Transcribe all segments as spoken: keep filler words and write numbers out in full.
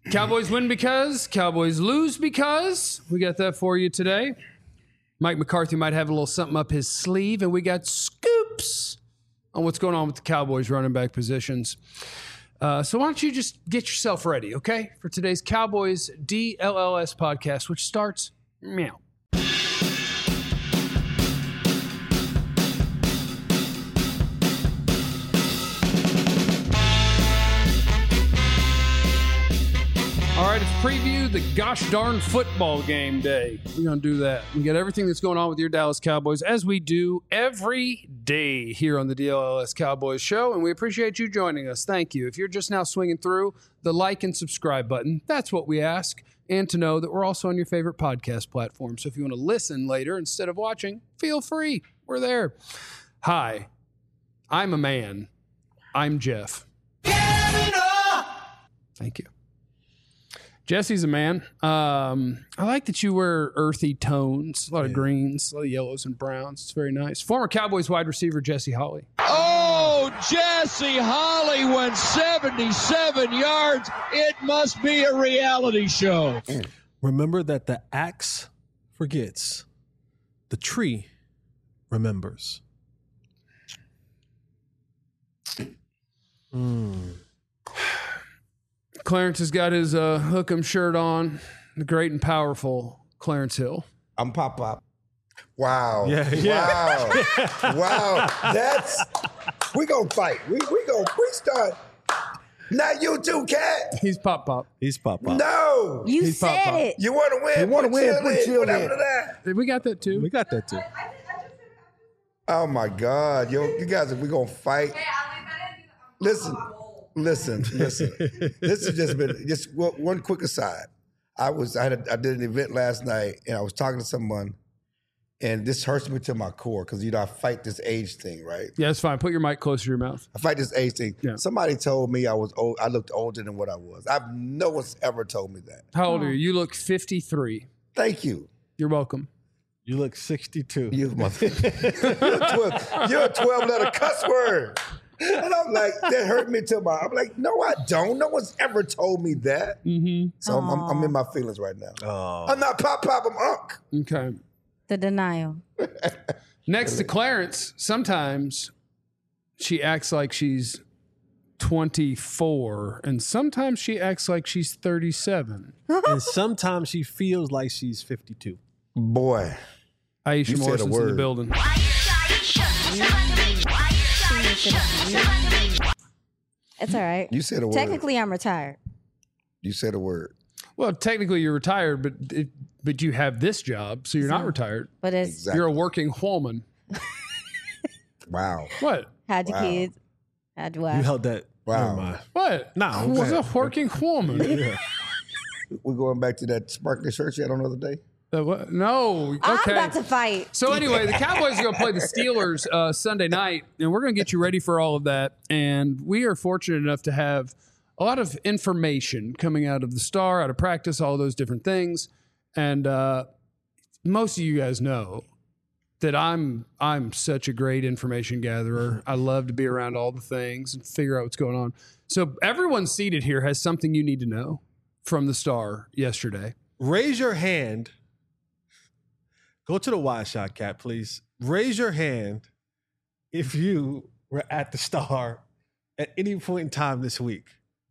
Cowboys win because, Cowboys lose because. We got that for you today. Mike McCarthy might have a little something up his sleeve, and we got scoops on what's going on with the Cowboys running back positions. Uh, so why don't you just get yourself ready, okay, for today's Cowboys D L L S podcast, which starts meow. All right, it's preview the gosh darn football game day. We're going to do that. We got everything that's going on with your Dallas Cowboys, as we do every day here on the D L L S Cowboys show, and we appreciate you joining us. Thank you. If you're just now swinging through, the like and subscribe button, that's what we ask, and to know that we're also on your favorite podcast platform. So if you want to listen later instead of watching, feel free. We're there. Hi, I'm a man. I'm Jeff. Thank you. Jesse's a man. Um, I like that you wear earthy tones, a lot of yeah. greens, a lot of yellows and browns. It's very nice. Former Cowboys wide receiver Jesse Holley. Oh, Jesse Holley went seventy-seven yards. It must be a reality show. Remember that the axe forgets, the tree remembers. Mm. Clarence has got his uh, Hook'em shirt on. The great and powerful Clarence Hill. I'm Pop Pop. Wow. Yeah, yeah. Wow. Wow. That's, we gonna fight. We we gonna, we start. Not you too, Cat. He's Pop Pop. He's Pop Pop. No. You He's said Pop Pop. it. You want to win? You want to put win, chill put in. chill What happened in. to that? We got that too. We got that too. Oh my God. Yo, you guys, we gonna fight. Listen. Listen, listen. This has just been just one quick aside. I was I, had a, I did an event last night, and I was talking to someone, and this hurts me to my core because you know I fight this age thing, right? Yeah, it's fine. Put your mic closer to your mouth. I fight this age thing. Yeah. Somebody told me I was old. I looked older than what I was. I've no one's ever told me that. How old are you? You look fifty-three. Thank you. You're welcome. You look sixty-two. You mother. you're, a twelve, you're a twelve letter cuss word. And I'm like, that hurt me to my. I'm like, no, I don't. No one's ever told me that. Mm-hmm. So I'm, I'm, I'm in my feelings right now. Oh. I'm not Pop Pop. I'm Unc. Okay. The denial. Next to Clarence, sometimes she acts like she's twenty-four, and sometimes she acts like she's thirty-seven. And sometimes she feels like she's fifty-two. Boy, Aisha you said a Morrison's in the word. building. It's all right. You said a word. Technically, I'm retired. You said a word. Well, technically you're retired, but it, but you have this job, so you're not retired. But it's Exactly. You're a working woman. Wow. What? had your Wow. kids, had your wife. You held that. Wow. Never mind. What? Nah, Who's okay. a working woman? Yeah. We're going back to that sparkly shirt you had on the other day. Uh, what? No. I'm Okay. about to fight. So anyway, the Cowboys are going to play the Steelers uh, Sunday night, and we're going to get you ready for all of that. And we are fortunate enough to have a lot of information coming out of the Star, out of practice, all those different things. And uh, most of you guys know that I'm I'm such a great information gatherer. I love to be around all the things and figure out what's going on. So everyone seated here has something you need to know from the Star yesterday. Raise your hand. Go to the wide shot, Cat, please. Raise your hand if you were at the Star at any point in time this week.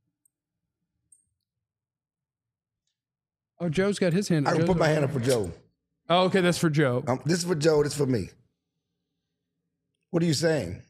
Oh, Joe's got his hand up. I can Joe's put my up. hand up for Joe. Oh, okay, that's for Joe. Um, this is for Joe. This is for me. What are you saying?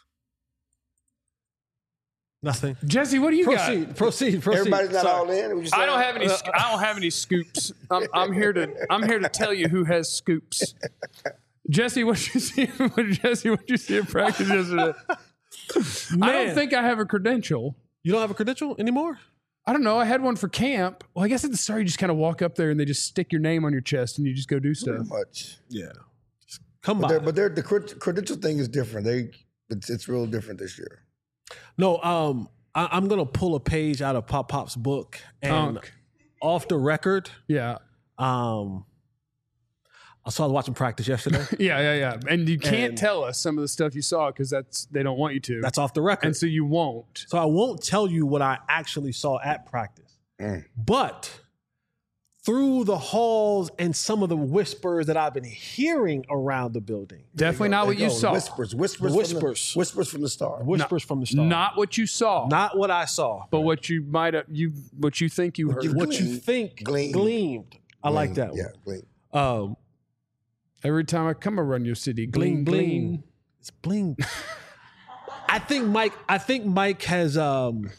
Nothing. Jesse, what do you Proceed, got? proceed, proceed. Everybody's not Sorry. all in. What you I saying? don't have any. sc- I don't have any scoops. I'm, I'm here to. I'm here to tell you who has scoops. Jesse, what you see? What, Jesse, what you see in practice yesterday? I Man. don't think I have a credential. You don't have a credential anymore? I don't know. I had one for camp. Well, I guess at the start you just kind of walk up there and they just stick your name on your chest and you just go do Pretty stuff. much. Yeah. Just come But, by. they're, but they're, the cred- credential thing is different. They it's, it's real different this year. No, um, I, I'm gonna pull a page out of Pop Pop's book and Unk. off the record. Yeah, Um, I saw watching practice yesterday. yeah, yeah, yeah. And you can't And- tell us some of the stuff you saw because that's they don't want you to. That's off the record. and so you won't. So I won't tell you what I actually saw at practice. Mm. But through the halls and some of the whispers that I've been hearing around the building, Definitely not There what you go. saw. Whispers, whispers, Whispers. from the, whispers from the star. whispers from the star, Not what you saw, not what I saw, but what you might have you what you think you heard. you- what you Gleamed. think Gleamed. gleamed. I like Gleam. that Yeah, one. gleam. Um, Every time I come around your city, bling gleam, bling. gleam. It's bling. I think Mike. I think Mike has um,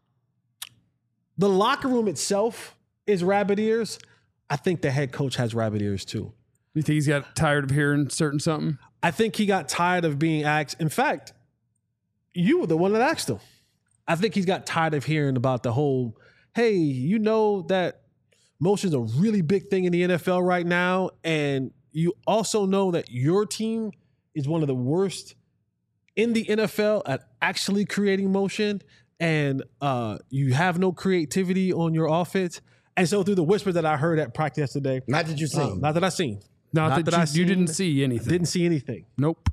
the locker room itself is rabbit ears. I think the head coach has rabbit ears too. You think he's got tired of hearing certain something? I think he got tired of being asked. In fact, you were the one that asked him. I think he's got tired of hearing about the whole, hey, you know that motion's a really big thing in the N F L right now. And you also know that your team is one of the worst in the N F L at actually creating motion. And uh, you have no creativity on your offense. And so through the whispers that I heard at practice yesterday, Not that you seen. um, not that I seen, Not, Not that, that I you, you seen- didn't see anything. didn't see anything. Nope.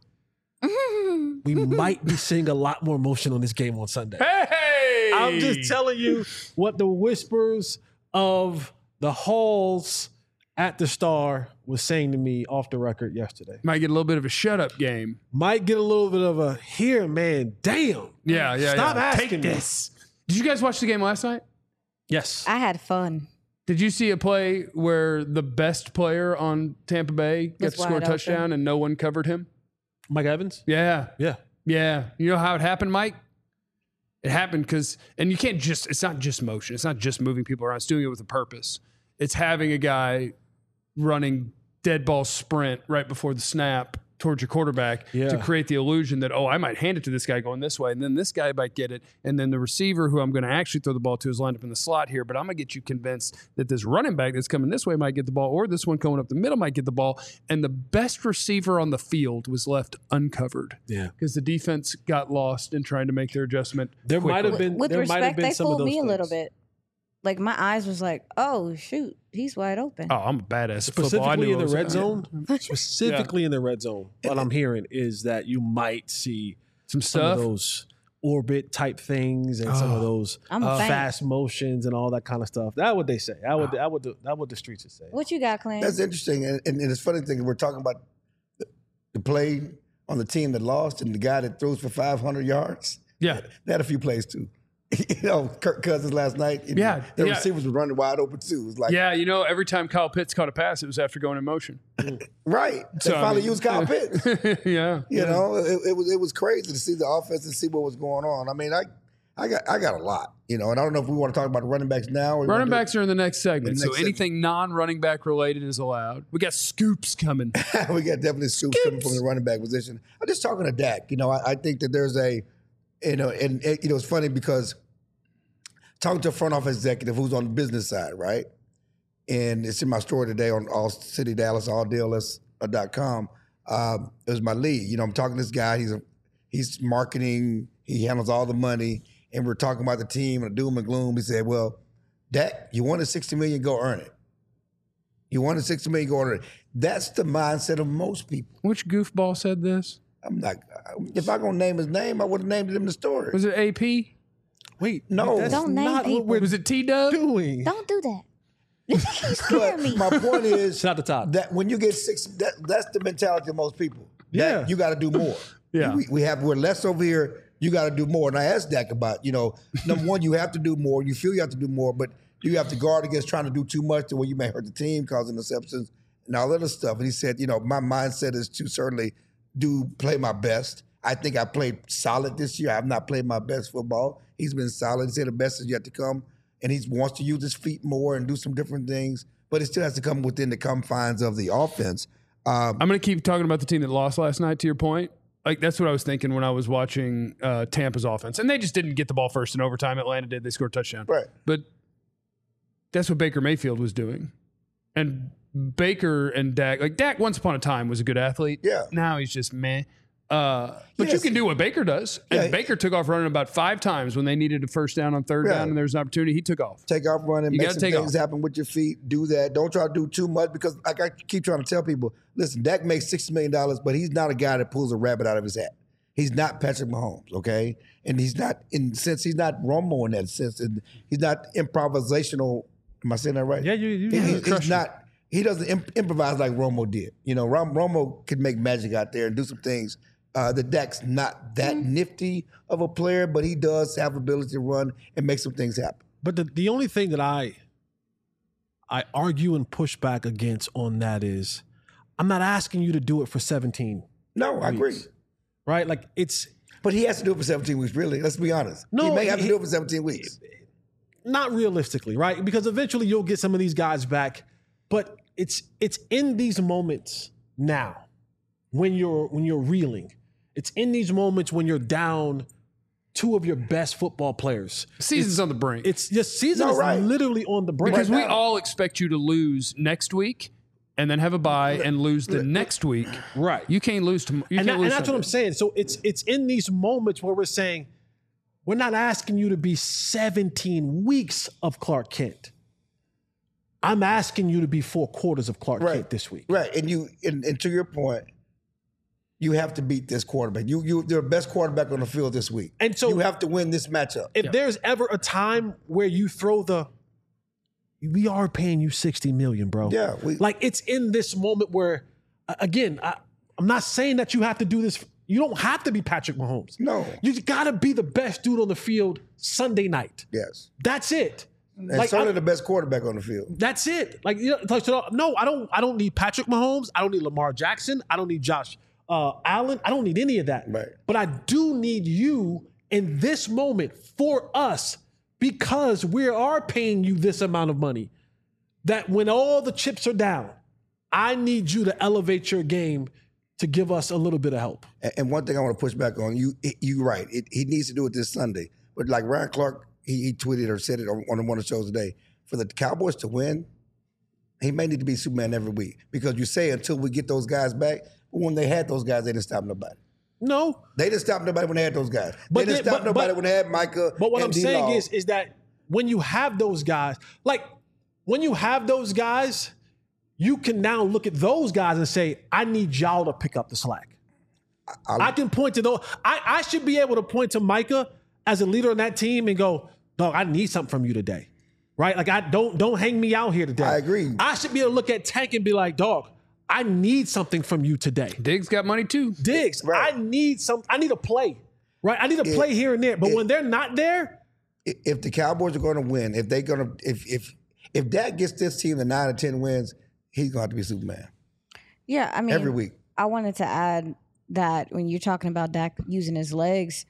We might be seeing a lot more motion on this game on Sunday. Hey! I'm just telling you what the whispers of the halls at the Star was saying to me off the record yesterday. Might get a little bit of a shut up game. Might get a little bit of a here, man. Damn. Yeah, yeah. Stop yeah. asking Take me. this. Did you guys watch the game last night? Yes. I had fun. Did you see a play where the best player on Tampa Bay got Was to score a wide touchdown open. and no one covered him? Mike Evans? Yeah. Yeah. Yeah. You know how it happened, Mike? It happened because, and you can't just, it's not just motion. It's not just moving people around. It's doing it with a purpose. It's having a guy running dead ball sprint right before the snap towards your quarterback Yeah. to create the illusion that, oh, I might hand it to this guy going this way, and then this guy might get it, and then the receiver who I'm going to actually throw the ball to is lined up in the slot here, but I'm going to get you convinced that this running back that's coming this way might get the ball, or this one coming up the middle might get the ball, and the best receiver on the field was left uncovered Yeah. because the defense got lost in trying to make their adjustment. There quickly. might have been With there might have respect, been they some of fooled those me a little things. bit. Like my eyes was like, oh shoot, he's wide open. Oh, I'm a badass at football. I Specifically knew in I the was- red zone, specifically in the red zone, what I'm hearing is that you might see Some some stuff. of those orbit type things and some of those I'm a uh, fan. fast motions and all that kind of stuff. That's what they say. That would that would that what the streets would say. What you got, Clint? That's interesting. And, and, and it's funny thing, we're talking about the, the play on the team that lost and the guy that throws for five hundred yards. Yeah. They had a few plays too. you know, Kirk Cousins last night. and Yeah, The yeah. receivers were running wide open too. It was like, Yeah, you know, every time Kyle Pitts caught a pass, it was after going in motion. right. They So, I finally mean, used Kyle Pitts. yeah. You know, it, it was it was crazy to see the offense and see what was going on. I mean, I I got I got a lot, you know, and I don't know if we want to talk about the running backs now. Or we Running wanna do- backs are in the next segment, The so next anything non-running back related is allowed. We got scoops coming. we got definitely scoops coming from the running back position. I'm just talking to Dak. You know, I, I think that there's a, you know, and, and you know, it's funny because talking to a front office executive who's on the business side, right? And it's in my story today on All City Dallas, all D L S dot com. Um, it was my lead. You know, I'm talking to this guy. He's a, he's marketing. He handles all the money, and we're talking about the team and the doom and gloom. He said, "Well, Dak, you wanted sixty million, go earn it. You wanted sixty million, go earn it." That's the mindset of most people. Which goofball said this? I'm not. If I gonna name his name, I would have named it in the story. Was it A P? Wait, No. that's Don't name not people. what we're Was it T Dub? doing. Don't do that. You scare But me. my point is Shout out to Todd. that when you get six, that, that's the mentality of most people. Yeah. That you got to do more. Yeah. we, we have we're less over here. You got to do more. And I asked Dak about, you know, number one, you have to do more. You feel you have to do more, but you have to guard against trying to do too much to where you may hurt the team, causing interceptions and all that other stuff. And he said, you know, my mindset is to certainly do play my best. I think I played solid this year. I have not played my best football. He's been solid. He said the best is yet to come, and he wants to use his feet more and do some different things. But it still has to come within the confines of the offense. Um, I'm going to keep talking about the team that lost last night, to your point. Like, that's what I was thinking when I was watching uh, Tampa's offense. And they just didn't get the ball first in overtime. Atlanta did. They scored a touchdown. Right. But that's what Baker Mayfield was doing. And Baker and Dak, like Dak once upon a time was a good athlete. Yeah. Now he's just meh. Uh, but Yes. you can do what Baker does. And Yeah. Baker took off running about five times when they needed a first down on third Yeah. down and there was an opportunity. He took off. Take off running, You make gotta some take things off. happen with your feet. Do that. Don't try to do too much because, like I keep trying to tell people, listen, Dak makes sixty million dollars, but he's not a guy that pulls a rabbit out of his hat. He's not Patrick Mahomes, okay? And he's not, in the sense, he's not Romo in that sense. And he's not improvisational. Am I saying that right? Yeah, you. you He- yeah, he- he's not. He doesn't imp- improvise like Romo did. You know, Rom- Romo could make magic out there and do some things. Uh, the Dak's not that nifty of a player, but he does have ability to run and make some things happen. But the, the only thing that I I argue and push back against on that is I'm not asking you to do it for seventeen. No, I agree. weeks, Right? Like it's But he has to do it for seventeen weeks, really. Let's be honest. No, he may have he- to do it for seventeen weeks. not realistically, right? Because eventually you'll get some of these guys back, but it's it's in these moments now when you're when you're reeling. It's in these moments when you're down two of your best football players. Season's on the brink. It's just season No, is right. literally on the brink. because we now. all expect you to lose next week and then have a bye and lose the next week. Right. You can't lose to. You and, can't that- lose and that's what I'm Sunday. saying. So it's it's in these moments where we're saying we're not asking you to be seventeen weeks of Clark Kent. I'm asking you to be four quarters of Clark Right. Kent this week. Right. And you and, and to your point, you have to beat this quarterback. You you you're the best quarterback on the field this week. And so- you have to win this matchup. If there's ever a time where you throw the, we are paying you sixty million, bro. Yeah, we- like it's in this moment where, uh, again, I, I'm not saying that you have to do this. You don't have to be Patrick Mahomes. No. You got to be the best dude on the field Sunday night. Yes. That's it. And Like, certainly I- the best quarterback on the field. That's it. Like, you know, like, so, no, I don't. I don't need Patrick Mahomes. I don't need Lamar Jackson. I don't need Josh uh, Allen. I don't need any of that. Right. But I do need you in this moment for us because we are paying you this amount of money. That when all the chips are down, I need you to elevate your game to give us a little bit of help. And, and one thing I want to push back on, you you right. It, he needs to do it this Sunday. But like Ryan Clark, he, he tweeted or said it on, on one of the shows today. For the Cowboys to win, he may need to be Superman every week. Because you say until we get those guys back, but when they had those guys, they didn't stop nobody. No, They didn't stop nobody when they had those guys. But they didn't then- stop but- nobody but- when they had Micah. But what and I'm saying D-Law. is, is that when you have those guys, like when you have those guys, you can now look at those guys and say, I need y'all to pick up the slack. I'll- I can point to those. I, I should be able to point to Micah as a leader on that team and go, dog, I need something from you today. Right? Like I don't don't hang me out here today. I agree. I should be able to look at Tank and be like, dog, I need something from you today. Diggs got money too. Diggs, Right. I need some, I need a play. Right? I need a play here and there. But when they're not there, if the Cowboys are going to win, if they're going to, if if if Dak gets this team to nine or ten wins, he's going to have to be Superman Yeah, I mean, every week. I wanted to add that when you're talking about Dak using his legs,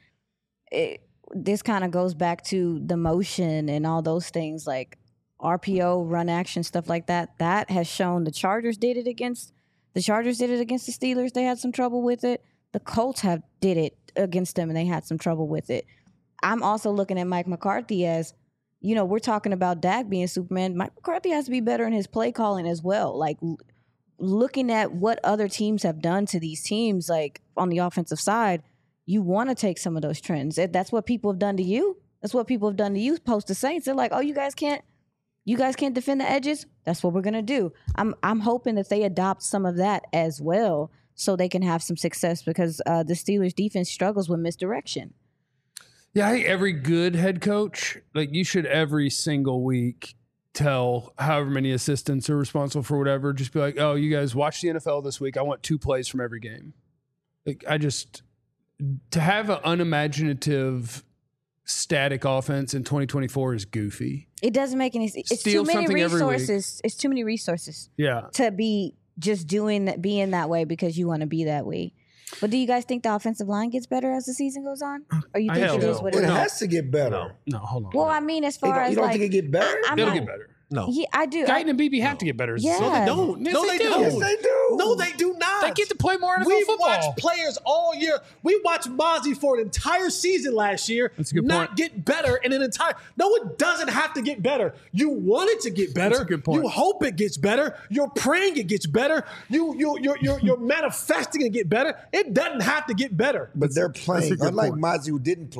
it, this kind of goes back to the motion and all those things like R P O, run action, stuff like that. That has shown the Chargers did it against the Chargers did it against the Steelers. They had some trouble with it. The Colts have did it against them and they had some trouble with it. I'm also looking at Mike McCarthy as, you know, we're talking about Dak being Superman. Mike McCarthy has to be better in his play calling as well. Like looking at what other teams have done to these teams, like on the offensive side, you want to take some of those trends. If that's what people have done to you. That's what people have done to you post the Saints. They're like, oh, you guys can't, you guys can't defend the edges. That's what we're gonna do. I'm I'm hoping that they adopt some of that as well, so they can have some success because uh, the Steelers defense struggles with misdirection. Yeah, I think every good head coach, like you should every single week tell however many assistants are responsible for whatever, just be like, oh, you guys watch the N F L this week. I want two plays from every game. Like I just, to have an unimaginative static offense in twenty twenty-four is goofy. It doesn't make any sense. It's Steal too many something every week. resources. It's too many resources Yeah. to be just doing that, being that way because you want to be that way. But do you guys think the offensive line gets better as the season goes on, or you think Hell it is no. what It it is? has to get better. No, hold on. Well, I mean, as You far don't, as you don't like, think it get better? I'm It'll not- get better. no. Yeah, I do. Guyton I, and B B have to get better. as a Yeah. season. No, they don't. Yes, no, they they, do. don't. Yes, they do. No, they do not. They get to play more N F L We've football. watched players all year. We watched Mozzie for an entire season last year. That's a good not point. get better in an entire. No, it doesn't have to get better. You want it to get better. That's a good point. You hope it gets better. You're praying it gets better. You you you're you're, you're manifesting it get better. It doesn't have to get better. But they're a playing, good unlike point. Mozzie who didn't play,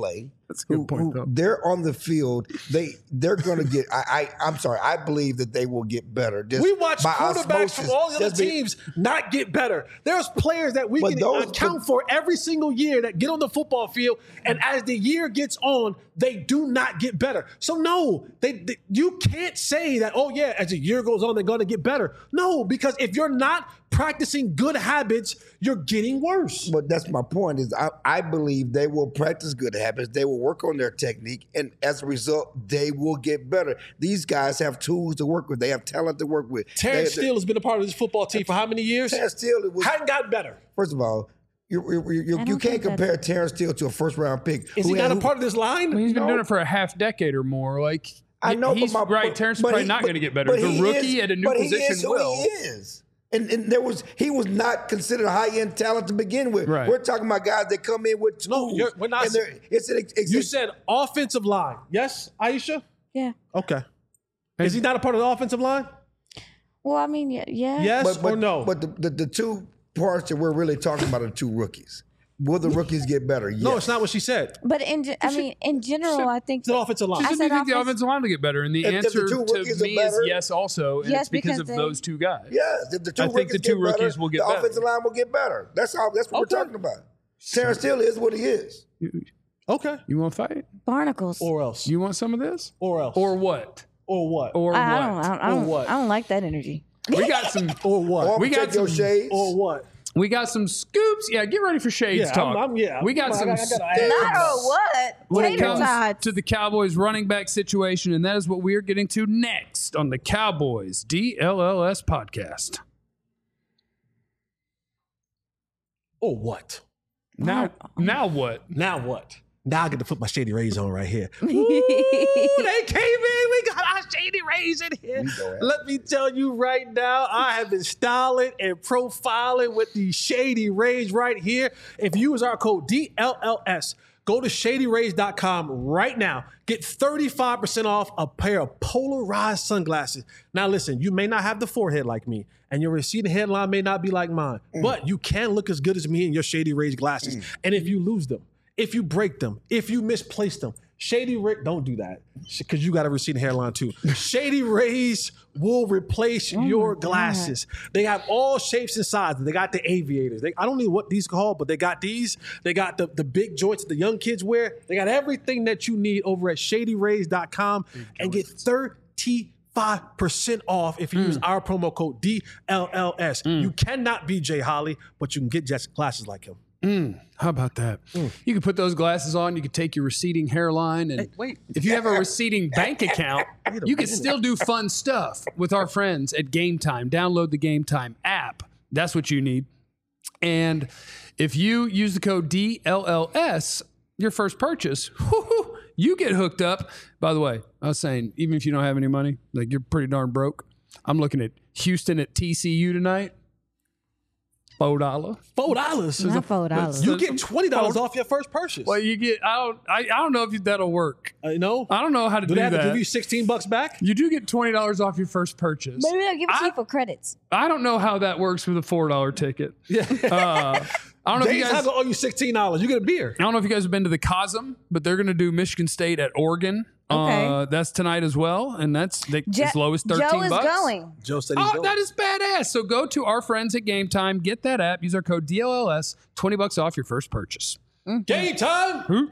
That's a good who, point, who though. they're on the field. They they're going to get. I, I I'm sorry. I believe that they will get better. Just We watch by quarterbacks osmosis. from all the other Just be- teams not get better. There's players that we But can those- account for every single year that get on the football field, and as the year gets on, they do not get better. So no, they, they you can't say that. Oh yeah, as the year goes on, they're going to get better. No, because if you're not practicing good habits, you're getting worse. But that's my point. Is I, I believe they will practice good habits. They will work on their technique, and as a result, they will get better. These guys have tools to work with. They have talent to work with. Terrence They- Steele has been a part of this football team for how many years? Terrence Steele was, Hadn't gotten better. first of all, you you, you, I you don't can't think compare Terrence Steele to a first round pick. Is who he had- not a who- part of this line? He's been No. doing it for a half decade or more. Like I know, he's but my, right. but- Terrence is but probably he- not but- going to get better. but The he rookie is- at a new but he position is who will. He is. And, and there was he was not considered high end talent to begin with. Right. We're talking about guys that come in with tools. No, you're- we're not- And they're- it's an, it's You a- said offensive line. Yes, Aisha? Yeah. Okay. Is he not a part of the offensive line? Well, I mean, yeah. yeah. Yes but, but, or no? But the, the, the two parts that we're really talking about are two rookies. Will the rookies get better? no, Yes. it's not what she said. But in, ge- I mean, in general, I think It's an offensive line. She I said, said do you think the offense- offensive line will get better? And the If- if the answer two to rookies are me is better- yes also, and Yes, it's because, because of they- those two guys. Yes, if the two I think rookies the two get better, rookies will get the better. offensive line will get better. That's how. That's what Okay. we're talking about. Terrence Steele is what he is. Okay. You want to fight? barnacles. Or else. You want some of this? or else. Or what? or what? Or I, I what? don't. I don't. I Or don't, what? I don't like that energy. We got some. or what? Or We got take your some- shades. or what? We got some scoops. Yeah, get ready for Shades Yeah, talk. I'm- I'm- yeah, we got I some gotta- I gotta scoops ask. Not or what? when it Tater comes tots. to the Cowboys running back situation, and that is what we are getting to next on the Cowboys D L L S podcast. Or what? Now, now what? Now what? Now I get to put my Shady Rays on right here. Ooh, they came in. We got our Shady Rays in here. Let me tell you right now, I have been styling and profiling with these Shady Rays right here. If you use our code D L L S, go to shady rays dot com right now. Get thirty-five percent off a pair of polarized sunglasses. Now listen, you may not have the forehead like me, and your receding hairline may not be like mine, but you can look as good as me in your Shady Rays glasses. And if you lose them, if you break them, if you misplace them, Shady Rays, don't do that because you got a receding hairline too. Shady Rays will replace your glasses. They have all shapes and sizes. They got the aviators. They, I don't know what these are called, but they got these. They got the, the big joints that the young kids wear. They got everything that you need over at shady rays dot com and get thirty-five percent off if you use our promo code D L L S. You cannot be Jay Holly, but you can get just glasses like him. How about that? You can put those glasses on. You can take your receding hairline, and wait. if you have a receding bank account, you can still do fun stuff with our friends at Game Time. Download the Game Time app. That's what you need. And if you use the code D L L S, your first purchase, whoo-hoo, you get hooked up. By the way, I was saying, even if you don't have any money, like you're pretty darn broke. I'm looking at Houston at T C U tonight. Four dollar. Four dollars. Not four dollars. You get twenty dollars off your first purchase. Well, you get. I don't. I, I don't know if that'll work. Uh, you know? I don't know how to do, Do they have that. to give you sixteen bucks back? You do get twenty dollars off your first purchase. Maybe they'll give it to I- you for credits. I don't know how that works with a four dollar ticket. Yeah. Uh, I don't know if you Days guys. I owe you sixteen dollars. You get a beer. I don't know if you guys have been to the Cosm, but they're going to do Michigan State at Oregon. Okay. Uh, that's tonight as well, and that's they, Je- as low as thirteen Joe is bucks. going. Joe said he's Oh, going. that is badass! So go to our friends at Game Time, get that app, use our code D L L S, twenty bucks off your first purchase. Game time.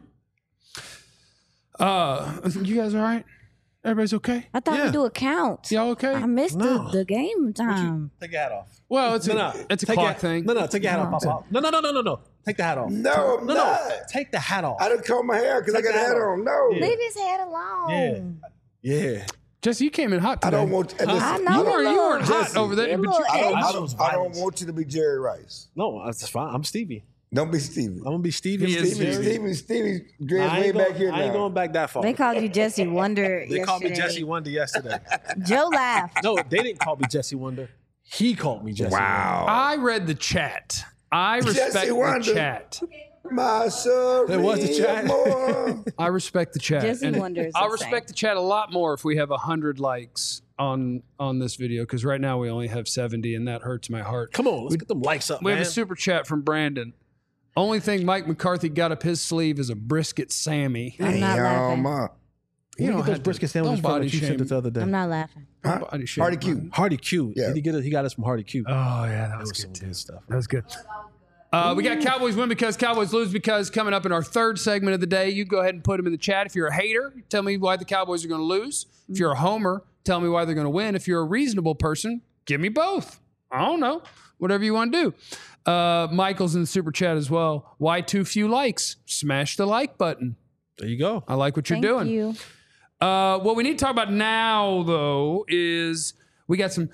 Uh, you guys all right? Everybody's okay? I thought Yeah. we do a count. Y'all okay? I missed No. the, the game time. Take your hat off. Well, it's No, a no. it's a Take clock your, thing. No, no, take your hat off, Papa. No, no, no, no, no, no. Take the hat off. No, I'm no, not. no. Take the hat off. I didn't comb my hair because I Take got a that hat off. on. No. Yeah. Leave his head alone. Yeah. Yeah. Jesse, you came in hot I today. don't want. Listen, I You know. weren't, you weren't hot Jesse, over there, you but look you I came. don't, I, Shows don't, I don't violence. want you to be Jerry Rice. No, that's fine. I'm Stevie. Don't be Stevie. I'm gonna be Stevie. He is Stevie, Jerry. Stevie, Stevie, dreads I way ain't, back going, here I ain't now. going back that far. They called you Jesse Wonder They called me yesterday. Jesse Wonder yesterday. Joe laughed. No, they didn't call me Jesse Wonder. He called me Jesse Wow. I read the chat. I respect Jesse the Wonder. chat. My sorry. There was the chat. more. I respect the chat. Jesse And Wonder is I'll insane. respect the chat a lot more if we have one hundred likes on on this video, because right now we only have seventy, and that hurts my heart. Wonder. Come on, let's get them likes up, We man. have a super chat from Brandon. Only thing Mike McCarthy got up his sleeve is a brisket Sammy. I'm not laughing. uh, You You don't don't get those have to- brisket don't sandwiches from body that you sent shame. us the other day. I'm not laughing. huh? Body shape, Hardy man. Q. Hardy Q. Yeah. Did he get it? He got us from Hardy Q. Oh yeah, that That was was some good too. good stuff. That was good. Uh, we got Cowboys win because Cowboys lose because coming up in our third segment of the day. You go ahead and put them in the chat. If you're a hater, tell me why the Cowboys are going to lose. If you're a homer, tell me why they're going to win. If you're a reasonable person, give me both. I don't know. Whatever you want to do. Uh, Michael's in the super chat as well. Why too few likes? Smash the like button. There you go. I like what you're Thank doing. you. Uh, what we need to talk about now, though, is we got some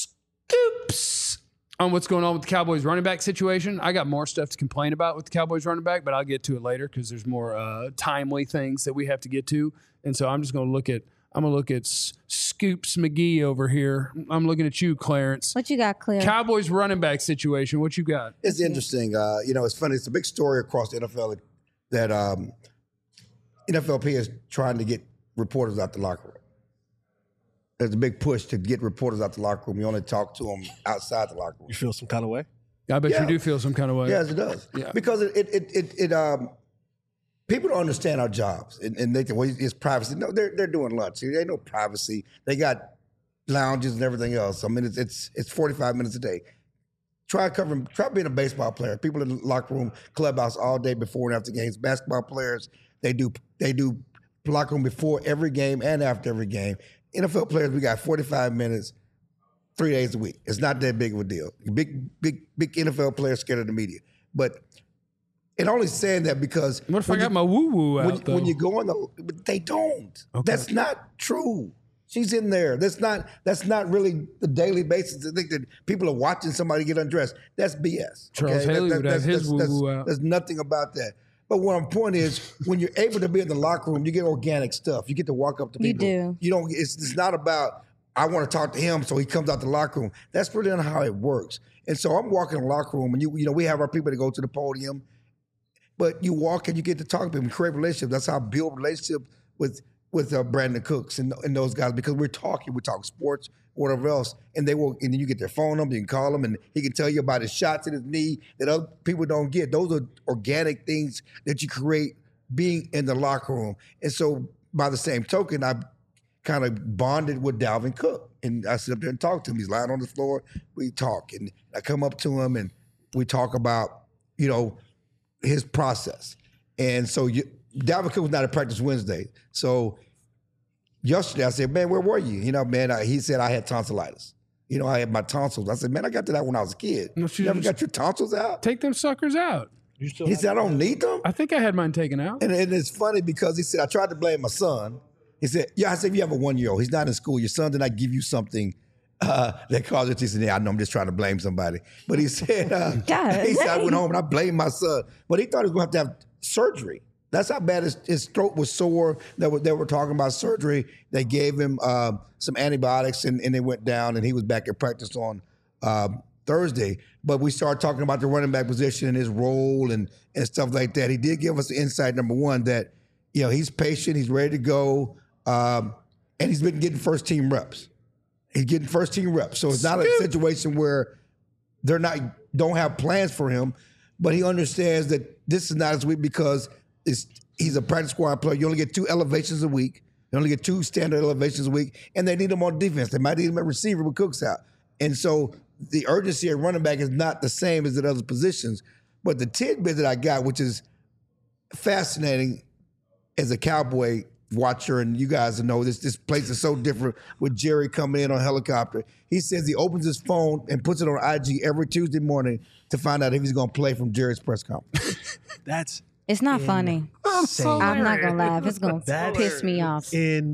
scoops on what's going on with the Cowboys running back situation. I got more stuff to complain about with the Cowboys running back, but I'll get to it later because there's more uh, timely things that we have to get to. And so I'm just going to look at I'm going to look at S- Scoops McGee over here. I'm looking at you, Clarence. What you got, Claire? Cowboys running back situation. What you got? It's interesting. Uh, you know, it's funny. It's a big story across the N F L that um, N F L P is trying to get reporters out the locker room. There's a big push to get reporters out the locker room. You only talk to them outside the locker room. You feel some kind of way? I bet Yeah. you do feel some kind of way. Yes, it does. Yeah. Because it, it, it, it, it um, people don't understand our jobs, and, and they think, well, it's privacy. No, they're they're doing lunch. There ain't no privacy. They got lounges and everything else. I mean, it's it's it's forty-five minutes a day. Try covering. Try being a baseball player. People in the locker room, clubhouse all day before and after games. Basketball players, they do they do locker room before every game and after every game. N F L players, we got forty-five minutes, three days a week. It's not that big of a deal. Big, big, big N F L players scared of the media. But it only saying that because What if I when got you- my woo woo out, when, though? when you go on the, but they don't. Okay. That's not true. She's in there. That's not. That's not really the daily basis to think that people are watching somebody get undressed. That's B S. Charles That- Haley that- would have that's- his that's- woo-woo that's- out. There's nothing about that. But what my point is, when you're able to be in the locker room, you get organic stuff. You get to walk up to You people. do. You don't. It's, it's not about I want to talk to him, so he comes out the locker room. That's really not how it works. And so I'm walking in the locker room, and you you know we have our people that go to the podium, but you walk and you get to talk to them, and create relationships. That's how I build relationships with with uh, Brandon Cooks and, and those guys because we're talking, we talk sports, whatever else, and they will. And then you get their phone number, you can call him, and he can tell you about his shots in his knee that other people don't get. Those are organic things that you create being in the locker room. And so, by the same token, I kind of bonded with Dalvin Cook, and I sit up there and talk to him. He's lying on the floor. We talk, and I come up to him, and we talk about you know his process. And so, you, Dalvin Cook was not at practice Wednesday, so. Yesterday, I said, man, where were you? You know, man, I, he said I had tonsillitis. You know, I had my tonsils. I said, man, I got to that when I was a kid. No, You she never just- got your tonsils out? Take them suckers out. He said, I don't need them. I think I had mine taken out. And, and it's funny because he said, I tried to blame my son. He said, yeah, I said, you have a one-year-old. He's not in school. Your son did not give you something uh, that caused it. He said, yeah, I know, I'm just trying to blame somebody. But he said, uh, God, he said, I dang. went home and I blamed my son. But he thought he was going to have to have surgery. That's how bad his, his throat was sore. They were, they were talking about surgery. They gave him uh, some antibiotics and, and it went down, and he was back at practice on uh, Thursday. But we started talking about the running back position and his role and, and stuff like that. He did give us the insight, number one, that you know he's patient, he's ready to go, um, and he's been getting first team reps. He's getting first team reps. So it's not a situation where they're not don't have plans for him, but he understands that this is not his week because it's, he's a practice squad player. You only get two elevations a week. You only get two standard elevations a week, and they need him on defense. They might need him at receiver with Cooks out. And so the urgency at running back is not the same as at other positions. But the tidbit that I got, which is fascinating as a Cowboy watcher, and you guys know this, this place is so different with Jerry coming in on helicopter. He says he opens his phone and puts it on I G every Tuesday morning to find out if he's going to play from Jerry's press conference. That's It's not funny. insane. I'm not gonna laugh. It's gonna That's piss me off.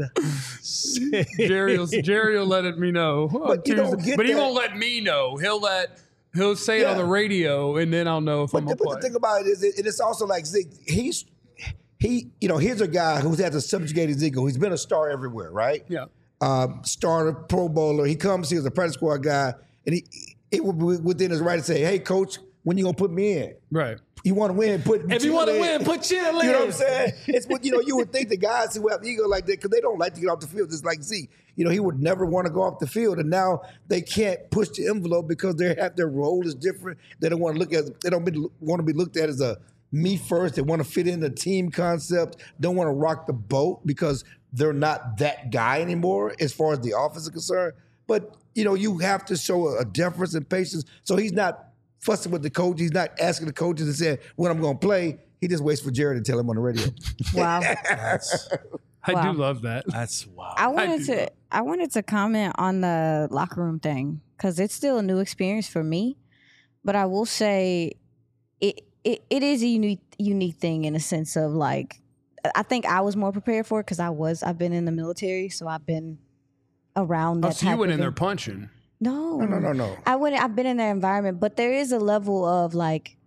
insane. Jerry will, Jerry will let it me know. Oh, But you don't Tuesday. get but he that. won't let me know. He'll let he'll say it on Yeah. the radio, and then I'll know if But, I'm the, gonna but play. the thing about it is, it, it's also like Zeke. He's he, you know, here's a guy who's had to subjugate his ego. He's been a star everywhere, right? yeah, Um, starter, Pro Bowler. He comes, he was a practice squad guy, and he it would be within his right to say, "Hey, coach, when you gonna put me in? Right. You want to win, put If you want to Chill win, in. put Chill in. You know what I'm saying? It's what you know. You would think the guys who have ego like that because they don't like to get off the field. Just like Zeke, you know, he would never want to go off the field, and now they can't push the envelope because they have their role is different. They don't want to look at. They don't be, want to be looked at as a me first. They want to fit in the team concept. Don't want to rock the boat because they're not that guy anymore as far as the offense is concerned. But you know, you have to show a, a deference and patience. So he's not fussing with the coach. He's not asking the coaches and saying when I'm going to play. He just waits for Jared to tell him on the radio. Wow. I Wow. do love that. That's wow. I wanted do to love- I wanted to comment on the locker room thing because it's still a new experience for me. But I will say it it, it is a unique unique thing in a sense of like I think I was more prepared for it because I was I've been in the military, so I've been around that Oh, so type you went of in there en- punching. No. No, no, no, no. I wouldn't I've been in their environment, but there is a level of like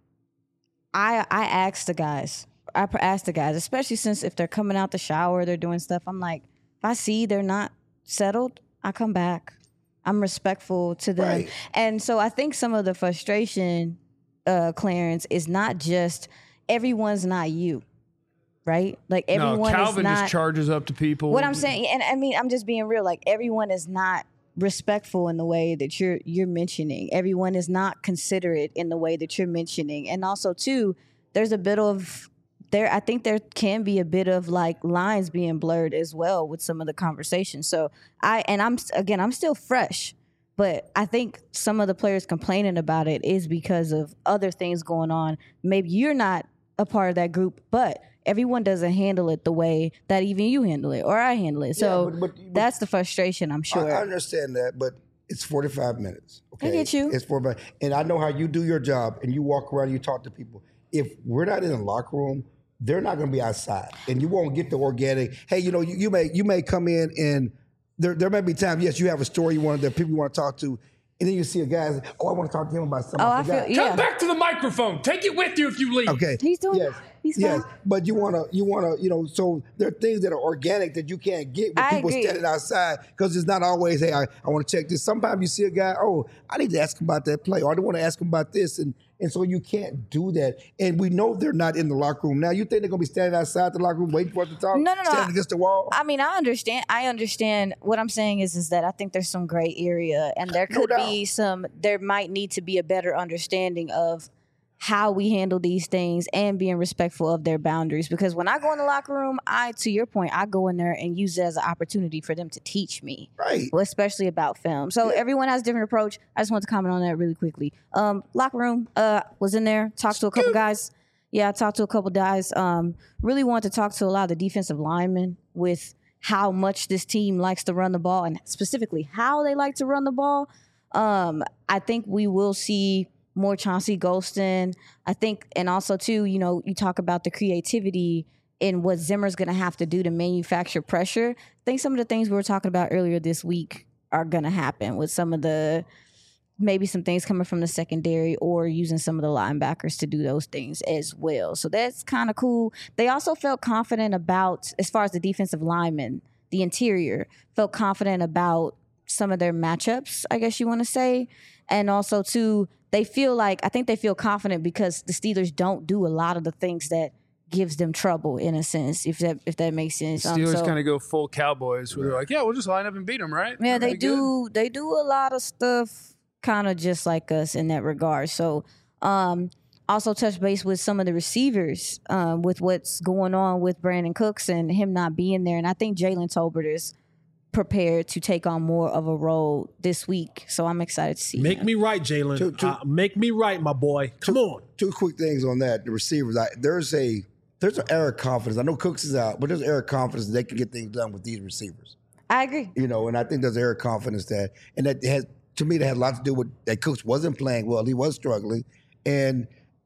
I I asked the guys. I pr- asked the guys, especially since if they're coming out the shower, they're doing stuff. I'm like, if I see they're not settled, I come back. I'm respectful to them. Right. And so I think some of the frustration, uh, Clarence, is not just everyone's not you. Right? Like everyone no, Calvin is not just charges up to people. what I'm saying, and I mean, I'm just being real. Like everyone is not respectful in the way that you're you're mentioning. Everyone is not considerate in the way that you're mentioning. And also, too, there's a bit of there. I think there can be a bit of like lines being blurred as well with some of the conversations. So I and I'm again, I'm still fresh. But I think some of the players complaining about it is because of other things going on. Maybe you're not a part of that group, but everyone doesn't handle it the way that even you handle it or I handle it. So Yeah, but- but- but- that's the frustration, I'm sure. I, I understand that, but it's forty-five minutes. Okay? get you. It's forty-five, and I know how you do your job, and you walk around, and you talk to people. If we're not in the locker room, they're not going to be outside, and you won't get the organic. Hey, you know, you, you may you may come in, and there there may be times. Yes, you have a story you want, that people you want to talk to, and then you see a guy. Say, oh, I want to talk to him about something. Oh, I forgot." feel- Come yeah. back to the microphone. Take it with you if you leave. Okay. He's doing yes. he's yes. fine. But you wanna you wanna, you know, so there are things that are organic that you can't get with I people agree. standing outside because it's not always, hey, I, I want to check this. Sometimes you see a guy, oh, I need to ask him about that play, or I want to ask him about this. And and so you can't do that. And we know they're not in the locker room. Now you think they're gonna be standing outside the locker room waiting for us to talk? No, no, no. Standing against the wall? I mean, I understand. I understand. What I'm saying is, is that I think there's some gray area, and there No could doubt. be some. There might need to be a better understanding of how we handle these things and being respectful of their boundaries. Because when I go in the locker room, I, to your point, I go in there and use it as an opportunity for them to teach me. Right. Well, especially about film. So everyone has a different approach. I just want to comment on that really quickly. Um, locker room, uh, was in there, talked to a couple guys. Yeah, I talked to a couple guys. Um, really wanted to talk to a lot of the defensive linemen with how much this team likes to run the ball and specifically how they like to run the ball. Um, I think we will see more Chauncey Golston. I think, and also too, you know, you talk about the creativity in what Zimmer's going to have to do to manufacture pressure. I think some of the things we were talking about earlier this week are going to happen with some of the, maybe some things coming from the secondary or using some of the linebackers to do those things as well. So that's kind of cool. They also felt confident about, as far as the defensive linemen, the interior, felt confident about some of their matchups, I guess you want to say. And also, too, they feel like, I think they feel confident because the Steelers don't do a lot of the things that gives them trouble, in a sense, if that if that makes sense. Um, Steelers so- kind of go full Cowboys where they're like, yeah, we'll just line up and beat them, right? Yeah, they Pretty good. do. They do a lot of stuff, kind of just like us in that regard. So, um, also touch base with some of the receivers, um, with what's going on with Brandon Cooks and him not being there. And I think Jalen Tolbert is prepared to take on more of a role this week. So I'm excited to see. Make him. me right, Jalen. Two- two- Uh, make me right, my boy. Come on. Two quick things on that. The receivers, I, there's a there's an air of confidence. I know Cooks is out, but there's an air of confidence that they can get things done with these receivers. I agree. You know, and I think there's an air of confidence that, and that has, to me, that had a lot to do with that Cooks wasn't playing well. He was struggling. And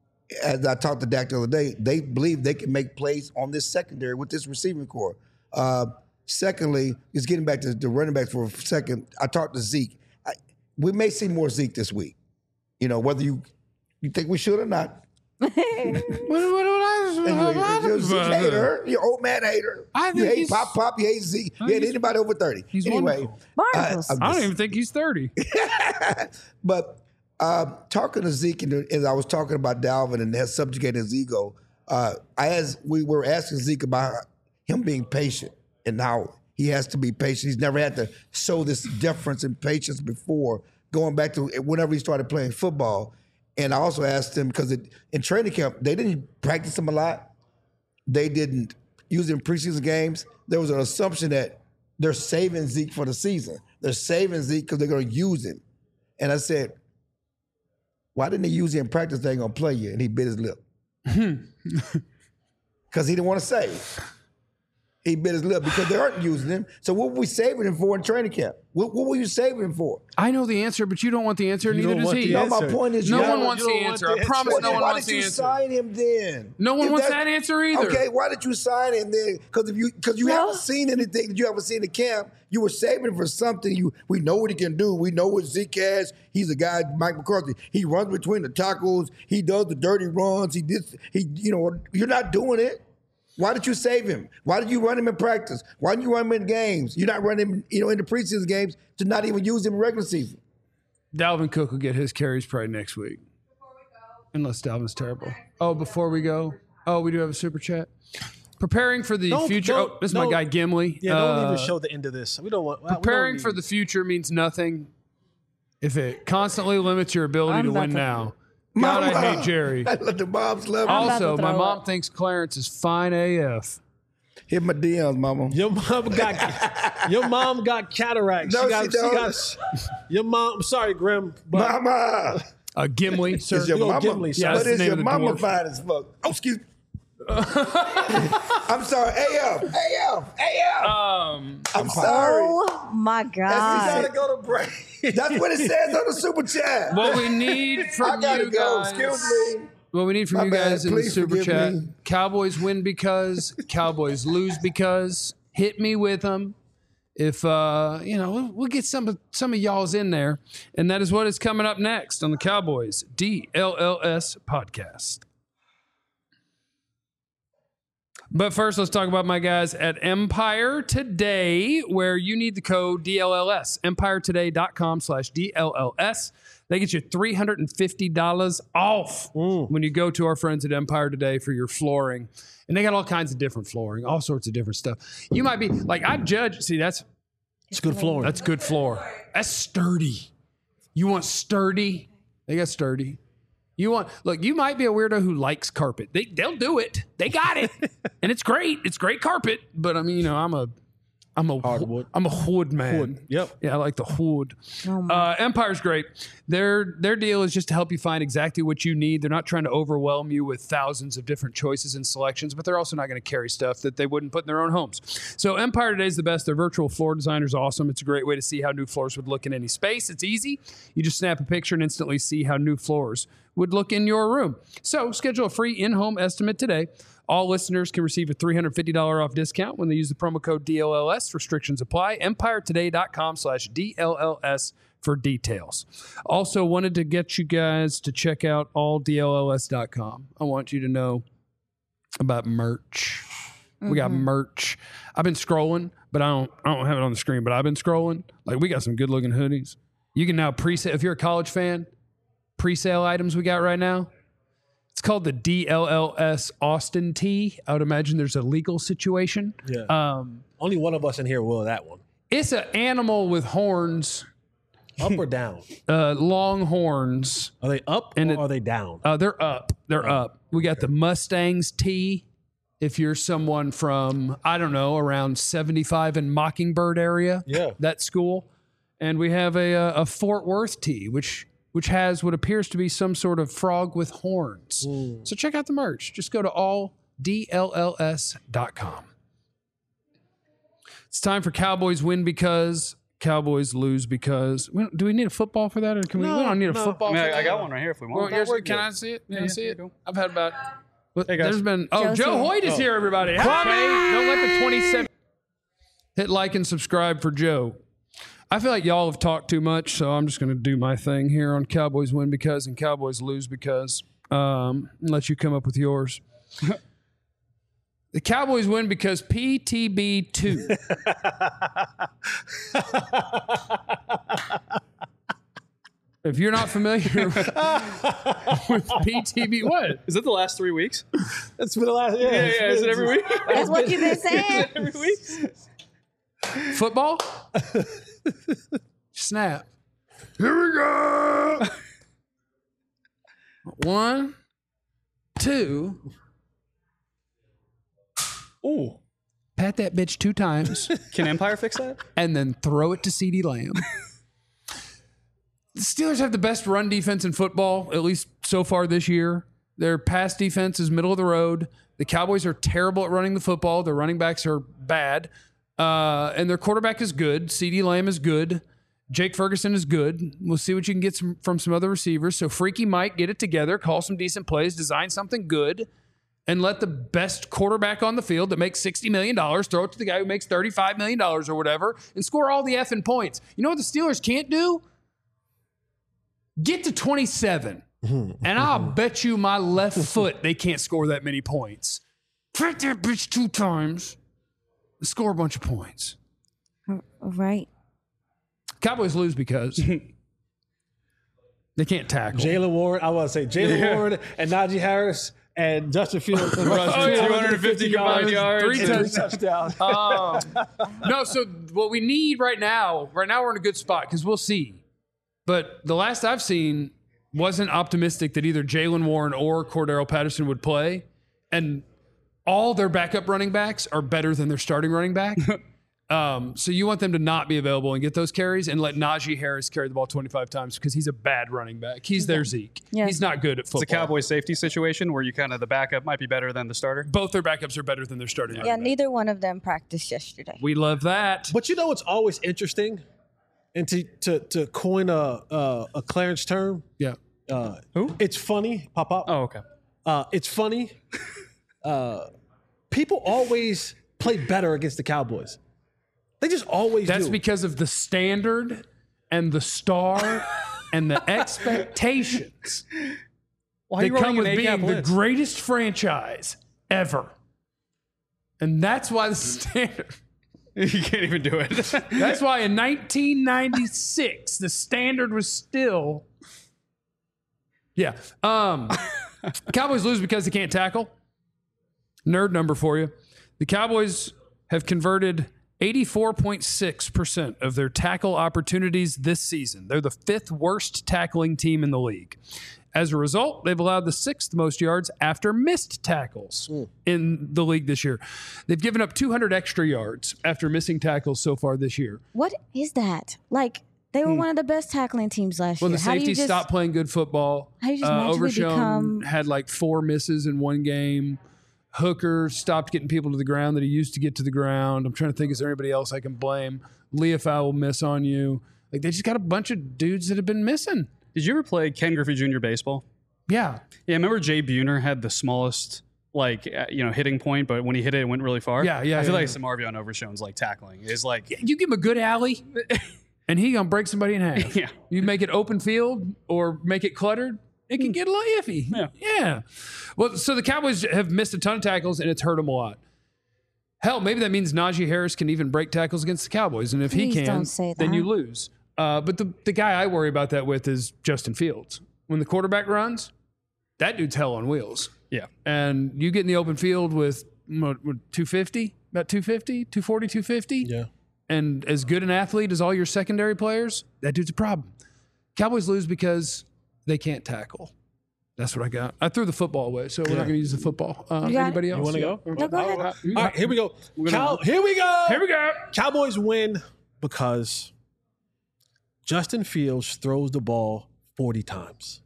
as I talked to Dak the other day, they believe they can make plays on this secondary with this receiving core. Uh, secondly, just getting back to the running backs for a second, I talked to Zeke. I, we may see more Zeke this week. You know, whether you you think we should or not. What, what, what, Anyway, you're a Zeke hater. You're an old man hater. I you think hate he's- Pop Pop. You hate Zeke. You hate he's- anybody over thirty. he's anyway, wonderful. Barnacles. I'm I don't just- even think he's thirty. but Uh, talking to Zeke, and as I was talking about Dalvin and that subjugating his ego, uh, I as we were asking Zeke about him being patient and how he has to be patient. He's never had to show this difference in patience before, going back to whenever he started playing football. And I also asked him, because in training camp, they didn't practice him a lot. They didn't use him in preseason games. There was an assumption that they're saving Zeke for the season. They're saving Zeke because they're going to use him. And I said, why didn't they use him in practice? They ain't going to play you. And he bit his lip. Because he didn't want to say. He bit his lip because they aren't using him. So what were we saving him for in training camp? What, what were you saving him for? I know the answer, but you don't want the answer, You neither don't does want he. the No, answer. my point is, No you one don't- wants you the don't want answer. the I answer. promise Well, no then one why wants did the you answer. sign him then? No one If wants that- that answer either. Okay, why did you sign him then? Because if you because you No. haven't seen anything that you haven't seen in camp, you were saving him for something. You we know what he can do. We know what Zeke has. He's a guy, Mike McCarthy. He runs between the tackles. He does the dirty runs. He did. He you know you're not doing it. Why did you save him? Why did you run him in practice? Why didn't you run him in games? You're not running him, you know, in the preseason games to not even use him in regular season. Dalvin Cook will get his carries probably next week. Unless Dalvin's terrible. Oh, before we go. Oh, we do have a super chat. Preparing for the Don't- future. don't- Oh, this is don't- my guy Gimli. Yeah, don't Uh, even show the end of this. We don't want. we don't Preparing need- for the future means nothing if it constantly limits your ability I'm to about win to- now. God, I Mama. hate Jerry. I let the moms love I'm him. about to Also, my throw mom up. thinks Clarence is fine A F. Hit my D Ms, mama. Your mom got your mom got cataracts. No, got, she don't. got your mom. I'm sorry, Grim. But Mama. Uh, Gimli, sir. Is your you go mama? Gimli, Yeah, But that's the is name your of the mama dwarf. fine as fuck? Oh, excuse me. I'm sorry. A F. A F. A F. Um, I'm sorry. Oh my That's, God. we gotta go to break. That's what it says on the super chat. what we need I from gotta you go. guys. Excuse me. What we need from My you bad. guys in the Please super forgive chat: me. Cowboys win because, Cowboys lose because. Hit me with them. If uh, you know, we'll, we'll get some of some of y'all's in there, and that is what is coming up next on the Cowboys D L L S podcast. But first, let's talk about my guys at Empire Today, where you need the code D L L S. empire today dot com slash D L L S. They get you three hundred fifty dollars off when you go to our friends at Empire Today for your flooring. And they got all kinds of different flooring, all sorts of different stuff. You might be like, I judge. See, that's it's good flooring. that's good floor. That's sturdy. You want sturdy? They got sturdy. You want look. You might be a weirdo who likes carpet. They they'll do it. They got it, and it's great. It's great carpet. But I mean, you know, I'm a I'm a Hardwood. I'm a wood man. Wood. Yep. Yeah, I like the wood. Oh my. Uh, Empire's great. Their their deal is just to help you find exactly what you need. They're not trying to overwhelm you with thousands of different choices and selections, but they're also not going to carry stuff that they wouldn't put in their own homes. So Empire Today is the best. Their virtual floor designer is awesome. It's a great way to see how new floors would look in any space. It's easy. You just snap a picture and instantly see how new floors would look in your room. So schedule a free in-home estimate today. All listeners can receive a three hundred fifty dollars off discount when they use the promo code D L L S. Restrictions apply. empire today dot com slash D L L S for details. Also wanted to get you guys to check out all D L L S dot com. I want you to know about merch. We got merch. I've been scrolling, but I don't I don't have it on the screen, but I've been scrolling. Like, we got some good looking hoodies. You can now pre-sale if you're a college fan, pre-sale items we got right now. It's called the D L L S Austin tee. I would imagine there's a legal situation. Yeah. Um, Only one of us in here will that one. it's an animal with horns, Up or down? uh, long horns. Are they up And or it- are they down? Uh, they're up. They're up. We got the Mustangs tee. If you're someone from, I don't know, around seventy-five and Mockingbird area, Yeah. that school. And we have a, a, a Fort Worth tee, which which has what appears to be some sort of frog with horns. So check out the merch. Just go to all D L L S dot com. It's time for Cowboys win because, Cowboys lose because. We don't- do we need a football for that, or can we? No, we don't need a no. football. I mean, for I, that. I got one right here if we Well, want. here's, we're can good. I see it? Can I Yeah, see here it? you go. I've had about. But Hey, guys. there's been. Oh, Joe's Joe here. Hoyt is Oh. here, everybody. Hey, don't let the twenty-seven. Hit like and subscribe for Joe. I feel like y'all have talked too much, so I'm just going to do my thing here on Cowboys win because and Cowboys lose because. Um, and let you come up with yours. The Cowboys win because P T B two. If you're not familiar with P T B, what? Is it the last three weeks? It's been the last. Yeah, Yeah, yeah. Is it every week? That's what you've been saying. Every week? Football? Snap. Here we go. One, two. Ooh. Pat that bitch two times Can Empire fix that? and then throw it to CeeDee Lamb. The Steelers have the best run defense in football, at least so far this year. Their pass defense is middle of the road. The Cowboys are terrible at running the football. Their running backs are bad. Uh, and their quarterback is good. CeeDee Lamb is good. Jake Ferguson is good. We'll see what you can get some, from some other receivers. So Freaky Mike, get it together, call some decent plays, design something good, and let the best quarterback on the field that makes sixty million dollars throw it to the guy who makes thirty-five million dollars or whatever and score all the effing points. You know what the Steelers can't do? Get to twenty-seven. And I'll bet you my left foot they can't score that many points. Track that bitch two times and score a bunch of points. Right. Cowboys lose because they can't tackle. Jalen Warren. I want to say Jalen Yeah. Warren and Najee Harris and Justin Fields rushed Oh, yeah. two hundred fifty combined yards. Three and- touchdowns. Um, no, so what we need right now, right now we're in a good spot because we'll see. But the last I've seen wasn't optimistic that either Jalen Warren or Cordero Patterson would play. And all their backup running backs are better than their starting running back. um, so you want them to not be available and get those carries and let Najee Harris carry the ball twenty-five times because he's a bad running back. He's their Zeke. Yeah. He's not good at football. It's a Cowboy safety situation where you kind of the backup might be better than the starter. Both their backups are better than their starting Yeah, running back. neither one of them practiced yesterday. We love that. But you know what's always interesting, and to to to coin a a, a Clarence term, Yeah. uh, Who? it's funny. Pop up. Oh, okay. Uh, it's funny. uh, people always play better against the Cowboys. They just always That's do. because of the standard and the star and the expectations Why are that you come running with an being A-gap the blitz? greatest franchise ever. And that's why the standard. You can't even do it. That's why in nineteen ninety-six the standard was still. Yeah. Um, Cowboys lose because they can't tackle. Nerd number for you. The Cowboys have converted eighty-four point six percent of their tackle opportunities this season. They're the fifth worst tackling team in the league. As a result, they've allowed the sixth most yards after missed tackles in the league this year. They've given up two hundred extra yards after missing tackles so far this year. What is that? Like, they were one of the best tackling teams last Well, year. the How do you safeties just, stopped playing good football. How do you just uh, magically Overshown become- had like four misses in one game. Hooker stopped getting people to the ground that he used to get to the ground. I'm trying to think, is there anybody else I can blame? Leafau will miss on you. Like, they just got a bunch of dudes that have been missing. Did you ever play Ken Griffey Junior baseball? Yeah. Yeah, remember Jay Buhner had the smallest, like, uh, you know, hitting point, but when he hit it, it went really far? Yeah, yeah, I feel yeah, like yeah. Samarvion Overshown's, like, tackling is like, You give him a good alley, and he gonna break somebody in half. Yeah. You make it open field or make it cluttered, it can get a little iffy. Yeah. Yeah. Well, so the Cowboys have missed a ton of tackles, and it's hurt them a lot. Hell, maybe that means Najee Harris can even break tackles against the Cowboys, and if Please he can, don't say then that. you lose. Uh, but the, the guy I worry about that with is Justin Fields. When the quarterback runs, that dude's hell on wheels. yeah. And you get in the open field with, what, what, two fifty? About two fifty? two forty, two fifty? Yeah. And as good an athlete as all your secondary players, that dude's a problem. Cowboys lose because they can't tackle. That's what I got. I threw the football away, so we're not going to use the football. Uh, You got anybody it? else? You want to go? No, go ahead. All right, here we go. gonna- Cow- here we go. Here we go. Cowboys win because Justin Fields throws the ball forty times.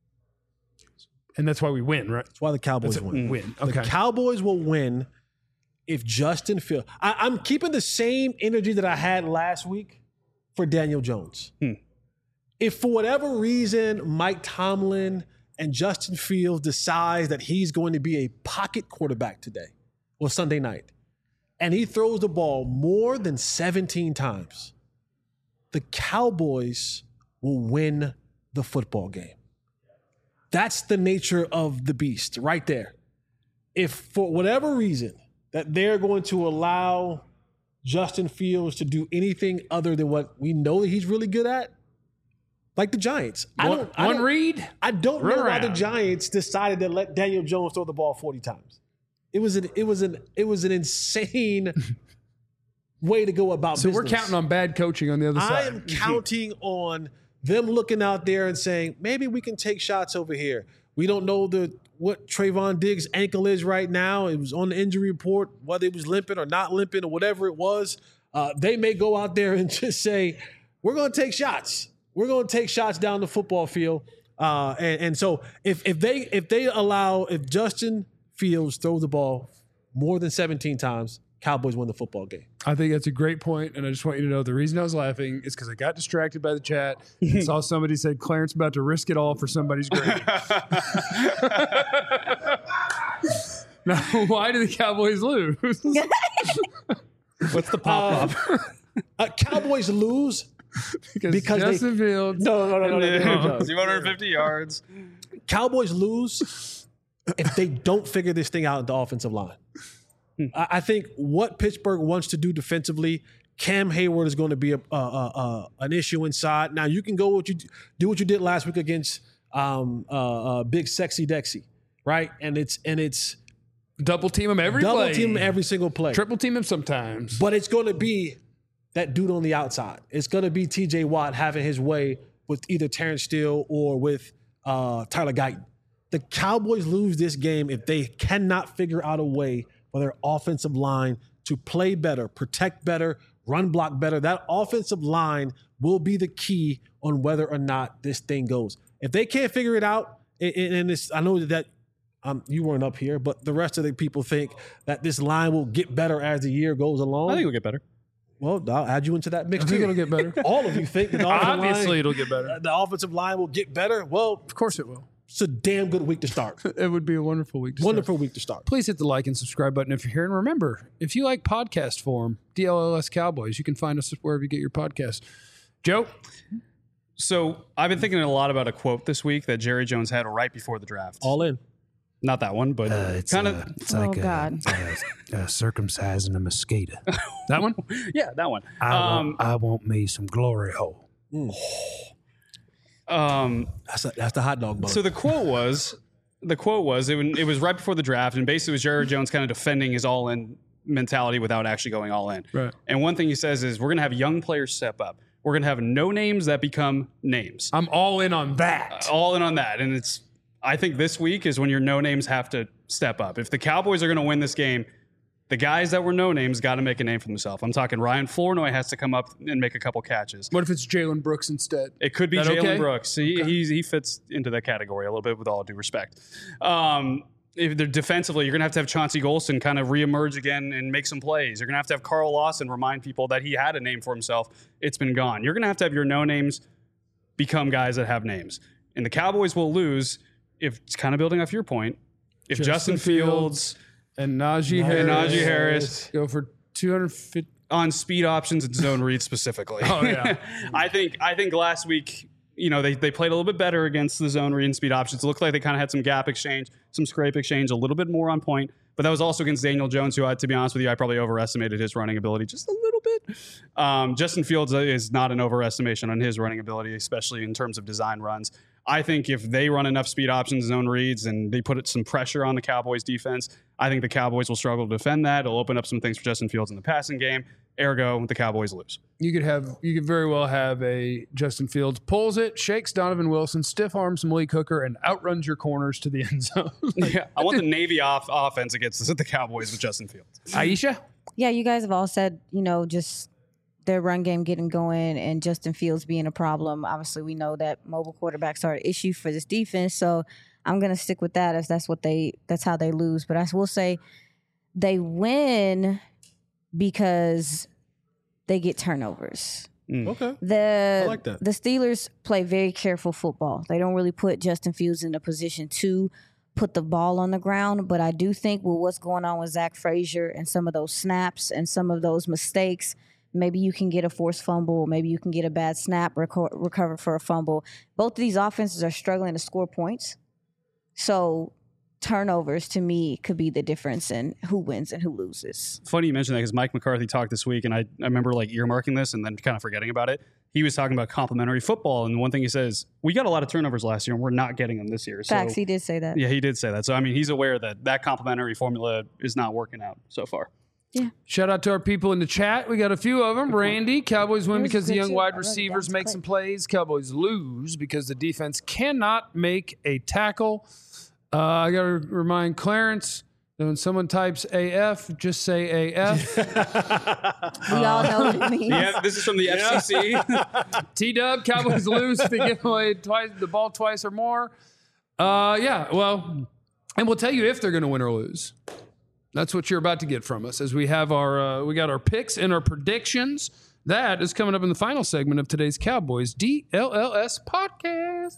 And that's why we win, right? That's why the Cowboys That's a win. win. The Okay. Cowboys will win if Justin Fields. I, I'm keeping the same energy that I had last week for Daniel Jones. Hmm. If for whatever reason Mike Tomlin and Justin Fields decides that he's going to be a pocket quarterback today or Sunday night, and he throws the ball more than seventeen times, the Cowboys will win the football game. That's the nature of the beast right there. If for whatever reason that they're going to allow Justin Fields to do anything other than what we know that he's really good at, like the Giants. I One, don't. I one don't, read. I don't Run know why the around. Giants decided to let Daniel Jones throw the ball forty times. It was an it was an it was an insane way to go about So business. we're counting on bad coaching on the other I side. am counting on them looking out there and saying, maybe we can take shots over here. We don't know the what Trayvon Diggs' ankle is right now. It was on the injury report, whether it was limping or not limping or whatever it was. Uh, they may go out there and just say, we're going to take shots. We're going to take shots down the football field. Uh, and, and so if if they if they allow, if Justin Fields throws the ball more than seventeen times, Cowboys win the football game. I think that's a great point, and I just want you to know the reason I was laughing is because I got distracted by the chat. I saw somebody said Clarence about to risk it all for somebody's grade. Now, why do the Cowboys lose? What's the pop up? Uh, Cowboys lose because, Because they- Justin Fields. No, no, no, no, no, no, no. two hundred fifty yards. Cowboys lose if they don't figure this thing out at the offensive line. I, I think what Pittsburgh wants to do defensively, Cam Hayward is going to be a, a, a, a an issue inside. Now you can go what you do what you did last week against um, uh, uh, Big Sexy Dexy, right? And it's and it's Double team him every double play. team every single play. Triple team him sometimes. But it's going to be that dude on the outside. It's going to be T J Watt having his way with either Terrence Steele or with uh, Tyler Guyton. The Cowboys lose this game if they cannot figure out a way for their offensive line to play better, protect better, run block better. That offensive line will be the key on whether or not this thing goes. If they can't figure it out, and and it's, I know that um, you weren't up here, but the rest of the people think that this line will get better as the year goes along. I think it'll get better. Well, I'll add you into that mix I think too. it'll get better. All of you think that the offensive Obviously, line, it'll get better. the offensive line will get better. Well, Of course it will. it's a damn good week to start. It would be a wonderful week to start. Wonderful week to start. Please hit the like and subscribe button if you're here. And remember, if you like podcast form, D L L S Cowboys, you can find us wherever you get your podcasts. Joe? So I've been thinking a lot about a quote this week that Jerry Jones had right before the draft. All in. Not that one, but kind of. it's Oh, God. uh, uh, circumcising a mosquito. That one? Yeah, that one. I, Um, want, I want me some glory hole. um, That's a, that's the hot dog bun. So the quote was, the quote was, it, it was right before the draft, and basically it was Jerry Jones kind of defending his all-in mentality without actually going all in. Right. And one thing he says is, we're going to have young players step up. We're going to have no names that become names. I'm all in on that. All in on that. And it's, I think this week is when your no names have to step up. If the Cowboys are going to win this game, the guys that were no names got to make a name for themselves. I'm talking Ryan Flournoy has to come up and make a couple catches. What if it's Jalen Brooks instead? It could be That Jalen okay? Brooks. He, he's, he fits into that category a little bit, with all due respect. Um, if they're defensively, you're going to have to have Chauncey Golston kind of reemerge again and make some plays. You're going to have to have Carl Lawson remind people that he had a name for himself. It's been gone. You're going to have to have your no names become guys that have names. And the Cowboys will lose if, it's kind of building off your point, if Justin, Justin Fields, And Najee Harris. and Najee Harris Go for two hundred fifty. on speed options and zone reads specifically. Oh, yeah. I think I think last week, you know, they, they played a little bit better against the zone read and speed options. It looked like they kind of had some gap exchange, some scrape exchange, a little bit more on point. But that was also against Daniel Jones, who, I, to be honest with you, I probably overestimated his running ability just a little bit. Um, Justin Fields is not an overestimation on his running ability, especially in terms of design runs. I think if they run enough speed options, zone reads, and they put some pressure on the Cowboys defense, I think the Cowboys will struggle to defend that. It'll open up some things for Justin Fields in the passing game. Ergo, the Cowboys lose. You could have, you could very well have a Justin Fields pulls it, shakes Donovan Wilson, stiff arms Malik Hooker, and outruns your corners to the end zone. Yeah, I want the Navy off offense against the Cowboys with Justin Fields. Aisha? Yeah, you guys have all said, you know, just their run game getting going and Justin Fields being a problem. Obviously, we know that mobile quarterbacks are an issue for this defense, so I'm going to stick with that as that's what they that's how they lose. But I will say they win because they get turnovers. Okay. The I like that. the Steelers play very careful football. They don't really put Justin Fields in a position to put the ball on the ground, but I do think with what's going on with Zach Frazier and some of those snaps and some of those mistakes, maybe you can get a forced fumble, maybe you can get a bad snap, reco- recover for a fumble. Both of these offenses are struggling to score points. So turnovers, to me, could be the difference in who wins and who loses. Funny you mentioned that because Mike McCarthy talked this week, and I, I remember like earmarking this and then kind of forgetting about it. he was talking about complimentary football. And one thing he says, we got a lot of turnovers last year and we're not getting them this year. So, Facts, he did say that. yeah, he did say that. So, I mean, he's aware that that complimentary formula is not working out so far. Yeah. Shout out to our people in the chat. We got a few of them. Randy, Cowboys win Yours because the good young too. wide I wrote it receivers down make quick. some plays. Cowboys lose because the defense cannot make a tackle. Uh, I got to remind Clarence that when someone types A F, just say A F. We all know what it means. Yeah, this is from the F C C. T-Dub, Cowboys lose if they give away twice, the ball twice or more. Uh, yeah, well, and we'll tell you if they're going to win or lose. That's what you're about to get from us as we have our, uh, we got our picks and our predictions. That is coming up in the final segment of today's Cowboys D L L S podcast.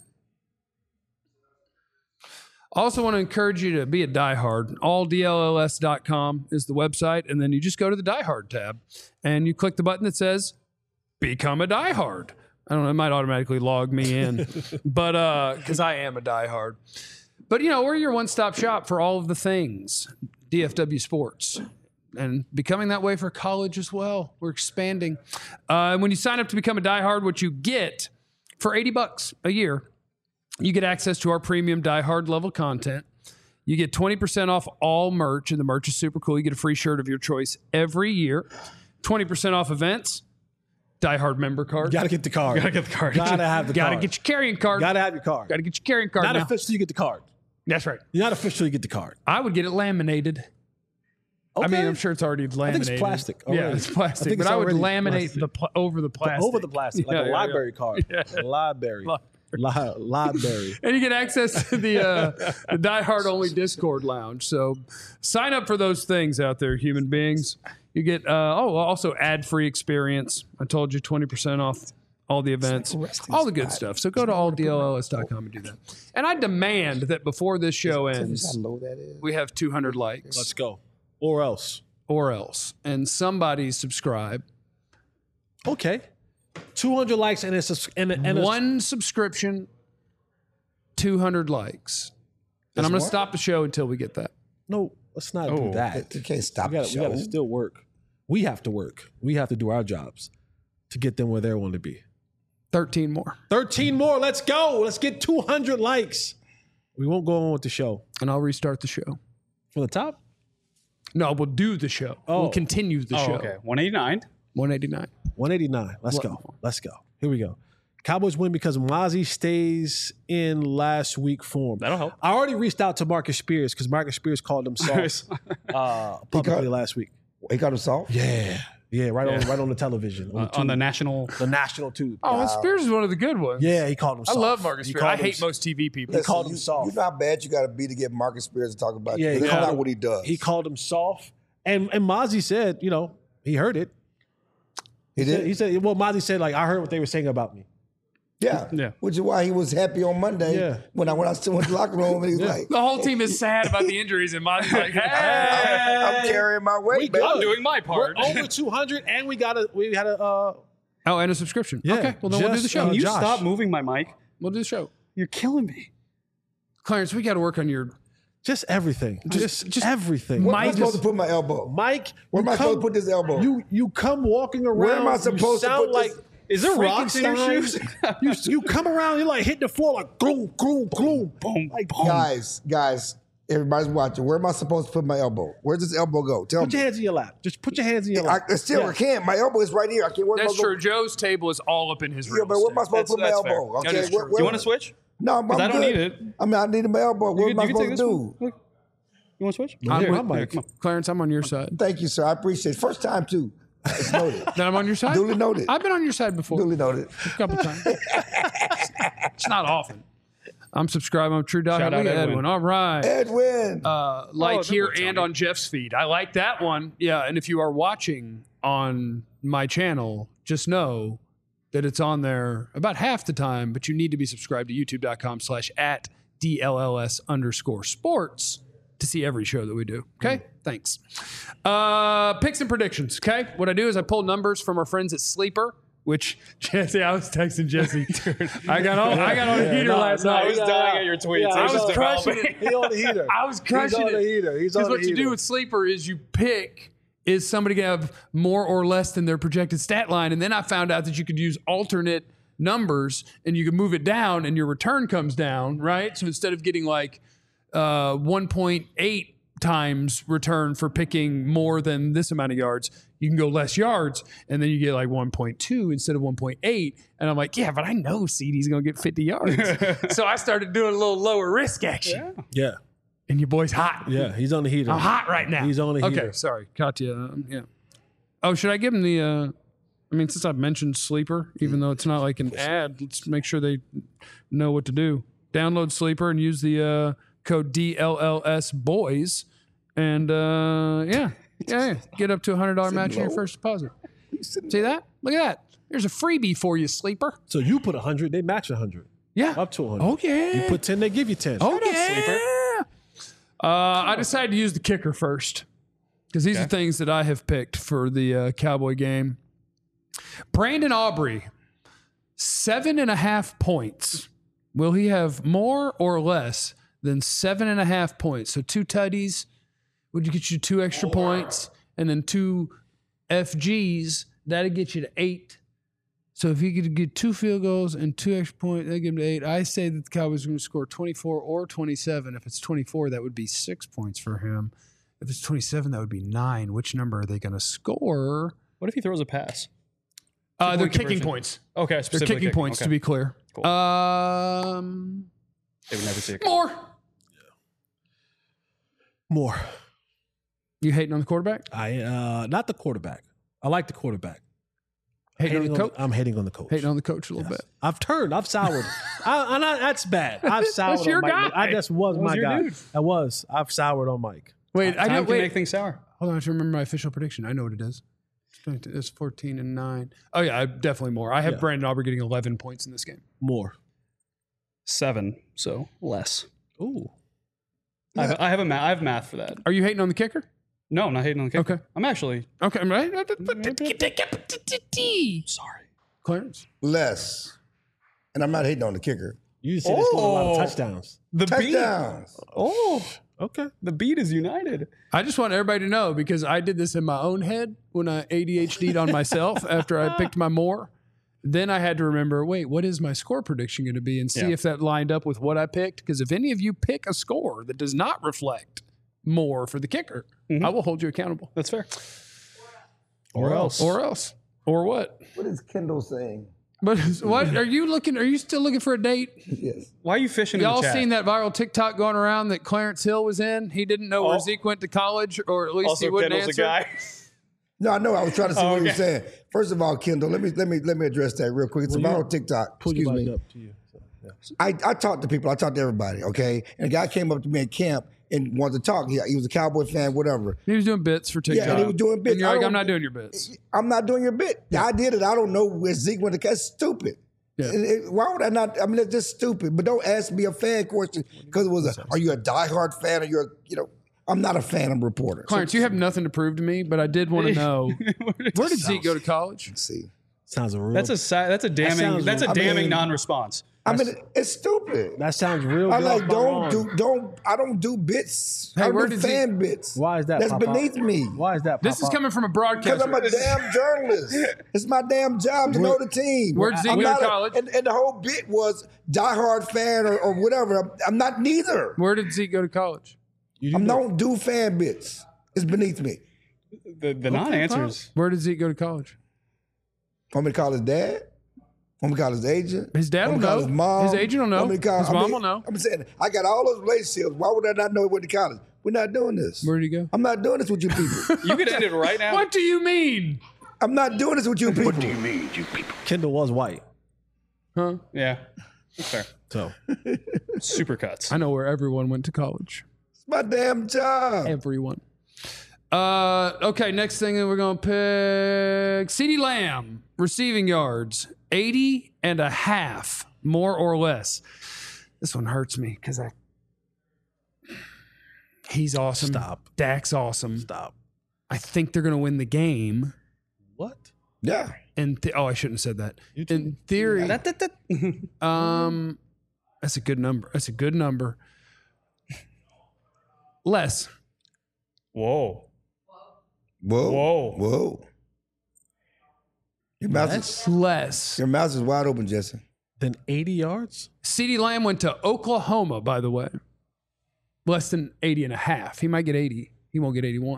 Also want to encourage you to be a diehard. all D L L S dot com is the website, and then you just go to the diehard tab, and you click the button that says become a diehard. I don't know, it might automatically log me in, but uh, because I am a diehard. But, you know, we're your one-stop shop for all of the things D F W sports, and becoming that way for college as well. We're expanding. Uh, and when you sign up to become a diehard, what you get for eighty bucks a year, you get access to our premium diehard level content. You get twenty percent off all merch, and the merch is super cool. You get a free shirt of your choice every year. twenty percent off events. Diehard member card. Gotta get the card. Gotta get the card. Gotta have the Gotta card. get your carrying card. Gotta have your card. Gotta get your carrying card Not now. official, you get the card. That's right. You're not official, you get the card. I would get it laminated. I mean, Okay. I'm sure it's already I laminated. think it's plastic. Yeah, already. it's plastic. I think but it's I would already laminate plastic. the pl- over the plastic. Over the plastic, like Yeah, a yeah, yeah. library card. A library. Li- library. And you get access to the, uh, the Die Hard only Discord lounge. So sign up for those things out there, human beings. You get, uh, oh, also ad free experience. I told you twenty percent off all the events, all the good stuff. So go to all D L L S dot com and do that. And I demand that before this show ends, we have two hundred likes. Let's go. Or else. Or else. And somebody subscribe. Okay. two hundred likes and it's a, and a, and a, One subscription, two hundred likes. And I'm going to stop the show until we get that. No, let's not do that. You can't stop We the gotta, we show. gotta still work. We have to work. We have to do our jobs to get them where they want to be. thirteen more. thirteen more. Let's go. Let's get two hundred likes. We won't go on with the show. And I'll restart the show. From the top? No, we'll do the show. Oh. We'll continue the Oh, show. okay. one eighty-nine. one eighty-nine. one eighty-nine. Let's What- go. Let's go. Here we go. Cowboys win because Mozzie stays in last week form. That'll help. I already reached out to Marcus Spears because Marcus Spears called him soft uh, publicly called- last week. He got him soft? Yeah. Yeah, right on Yeah. right on the television. On, Uh, the, on the tube. national. the national tube. Oh, and Spears is one of the good ones. Yeah, he called him I soft. love Marcus He Spears. I called him hate s- most T V people. Listen, called him you, soft. You know how bad you got to be to get Marcus Spears to talk about Yeah, you. he That's called not him- what he does. He called him soft. And and Mozzie said, you know, he heard it. He He said, did? he said, well, Mozzie said, like, I heard what they were saying about me. Yeah. Yeah. Which is why he was happy on Monday Yeah. when I when I still went to the locker room and he was like, The whole team is sad about the injuries, and Mozzie's like, hey. I'm carrying my weight, We baby. good. I'm doing my part. We're over two hundred, and we got a we had a uh, Oh, and a subscription. Yeah, Okay, well, then we'll do the just, show. uh, Can you Josh. stop moving my mic? We'll do the show. You're killing me. Clarence, we got to work on your just everything, just just- everything. Where am I Mike supposed is- to put my elbow? Mike, Where you am I supposed to put this elbow? You you come walking around. Where am I you supposed to sound put like, this- Is there rocks in your Frankenstein. shoes? you you come around, you're like hitting the floor like gloom gloom gloom. Boom, Like, Guys, guys, everybody's watching. Where am I supposed to put my elbow? Where's this elbow go? Tell Put your me. hands in your lap. Just put your hands in your I, lap. I still Yeah. I can't. My elbow is right here. I can't. Where am I That's supposed- true. Joe's table is all up in his room. Yeah, but where am I supposed to put my That's- that's elbow? fair. Okay, That is where- true. where- Do you want to switch? No, I'm, 'Cause I'm I don't good. need it. I mean, I need my elbow. What You am can, I you can take supposed to this do? one. Look. You want to switch? I'm Here, with- my mic. come on. Clarence, I'm on your side. Thank you, sir. I appreciate it. First time, too. It's noted. Then I'm on your side? Duly noted. I've been on your side before. Duly noted. A couple times. It's not often. I'm subscribed. I'm True Dog. Shout Look out at Edwin. Edwin. All right. Edwin. Uh, like Oh, here that's and funny. on Jeff's feed. I like that one. Yeah, and if you are watching on my channel, just know that it's on there about half the time, but you need to be subscribed to youtube.com slash at DLLS underscore sports to see every show that we do. Okay? Thanks. Uh, picks and predictions. Okay? What I do is I pull numbers from our friends at Sleeper, which Jesse, I was texting Jesse. I got on, I got on a heater no, last no, night. I was Yeah, dying yeah. at your tweets. Yeah, It I was just crushing developing. it. He on the heater. I was crushing He's on it. the heater. He's on Because the what you heater. do with Sleeper is you pick is somebody going to have more or less than their projected stat line? And then I found out that you could use alternate numbers and you can move it down and your return comes down, right? So instead of getting like uh, one point eight times return for picking more than this amount of yards, you can go less yards and then you get like one point two instead of one point eight. And I'm like, yeah, but I know C D's going to get fifty yards. So I started doing a little lower risk action. Yeah. And your boy's hot. Yeah, he's on the heater. I'm hot right now. He's on the heater. Okay, sorry. Katya. Um, yeah. Oh, should I give him the, uh, I mean, since I've mentioned Sleeper, even though it's not like an ad, let's make sure they know what to do. Download Sleeper and use the uh, code D L L S boys. And uh, yeah, yeah, yeah, get up to a one hundred dollars match on your first deposit. See that? Look at that. There's a freebie for you, Sleeper. So you put one hundred, they match one hundred. Yeah. Up to one hundred. Oh, yeah. You put ten, they give you ten. Oh, yeah. Uh, I decided to use the kicker first because these Okay. are things that I have picked for the uh, Cowboy game. Brandon Aubrey, seven and a half points. Will he have more or less than seven and a half points? So two tutties would get you two extra points, and then two F Gs, that'd get you to eight. So if he could get two field goals and two extra points, that'd give him to eight. I say that the Cowboys are going to score twenty-four or twenty-seven. If it's twenty-four, that would be six points for him. If it's twenty-seven, that would be nine. Which number are they going to score? What if he throws a pass? Uh, they're Two-point kicking conversion. points. Okay, They're specifically kicking points, Okay. to be clear. Cool. Um, They would never see it. more. More. You hating on the quarterback? I uh not the quarterback. I like the quarterback. Hating, on the coach? I'm hating on the coach. Hating on the coach a little Yes. bit. I've turned. I've soured. I, and I, that's bad. I've soured That's your on Mike. guy. I just was, That was my your guy. dude. I was. I've soured on Mike. Wait, I Time know. can Wait, make things sour. hold on. I have to remember my official prediction. I know what it is. It's fourteen and nine. Oh yeah, I- definitely more. I have Yeah. Brandon Aubrey getting eleven points in this game. More. Seven, so less. Ooh. I, have, I have a ma- I have math for that. Are you hating on the kicker? No, I'm not hating on the kicker. Okay. I'm actually Okay, I'm right. sorry. Clarence. Less. And I'm not hating on the kicker. You said it's going a lot of Oh. touchdowns. The Touchdowns. Oh, Okay. the beat is united. I just want everybody to know because I did this in my own head when I A D H D'd on myself after I picked my more. Then I had to remember, wait, what is my score prediction going to be and see Yeah. if that lined up with what I picked. Because if any of you pick a score that does not reflect more for the kicker, Mhm. I will hold you accountable. That's fair. Or else. Or else. Or what? What is Kendall saying? But what are you looking? Are you still looking for a date? Yes. Why are you fishing Y'all in the chat? seen that viral TikTok going around that Clarence Hill was in? He didn't know where Oh. Zeke went to college, or at least Also, he wouldn't Kendall's answer. a guy. No, I know. I was trying to see Oh, what you were okay. saying. First of all, Kendall, let me let me let me address that real quick. It's Well, about you- on TikTok. Pull Excuse your me. mic up to you. So, yeah. I, I talked to people. I talked to everybody. Okay, and a guy came up to me at camp and wanted to talk. He, he was a Cowboy fan, whatever. He was doing bits for TikTok. Yeah, and he was doing bits. And you're I like, don't- I'm not doing your bits. I'm not doing your bit. I did it. I don't know where Zeke went to. That's stupid. Yeah. It- it- why would I not? I mean, it's just stupid. But don't ask me a fan question because it was a. Are you a diehard fan or you're? You know, I'm not a fan. I'm a reporter. Clarence, you have nothing to prove to me, but I did want to know where did Zeke go to college? Let's see. Sounds a real. That's a si- that's a damning sounds- that's a I damning mean- non-response. I mean, it's stupid. that sounds real. I good like off my don't lawn. do don't. I don't do bits. Hey, I where do did fan Zeke- bits. Why is that? That's Papa? beneath me. Why is that? This is Papa? coming from a Because broadcaster. I'm a damn journalist. It's my damn job to know the team. Where'd Zeke I'm go to not a- college? and, and the whole bit was diehard fan or, or whatever. I'm, I'm not neither. Where did Zeke go to college? You I do know. don't do fan bits. It's beneath me. The the non-answers. Where did Zeke go to college? Want me to call his dad? Want me to call his agent? His dad Want will me to call know. His mom? His agent will know. Want me to call- His I mom mean, will know. I'm saying I got all those relationships. Why would I not know he went to college? We're not doing this. Where did he go? I'm not doing this with you people. You could end it right now. What do you mean? I'm not doing this with you people. Kendall was white. Huh? Yeah, that's fair. So Super cuts. I know where everyone went to college. It's my damn job. Everyone. Uh, okay, next thing that we're going to pick CeeDee Lamb, receiving yards, eighty and a half, more or less. This one hurts me because I. He's awesome. Stop. Dak's awesome. stop. I think they're going to win the game. What? Yeah. And th- oh, I shouldn't have said that. You too. In theory, That- that- that- um, that's a good number. That's a good number. Less. Whoa. Whoa. Whoa. Whoa. Your mouth, is, Less Less. your mouth is wide open, Jesse. than eighty yards? CeeDee Lamb went to Oklahoma, by the way. Less than eighty and a half. He might get eighty. He won't get eighty-one.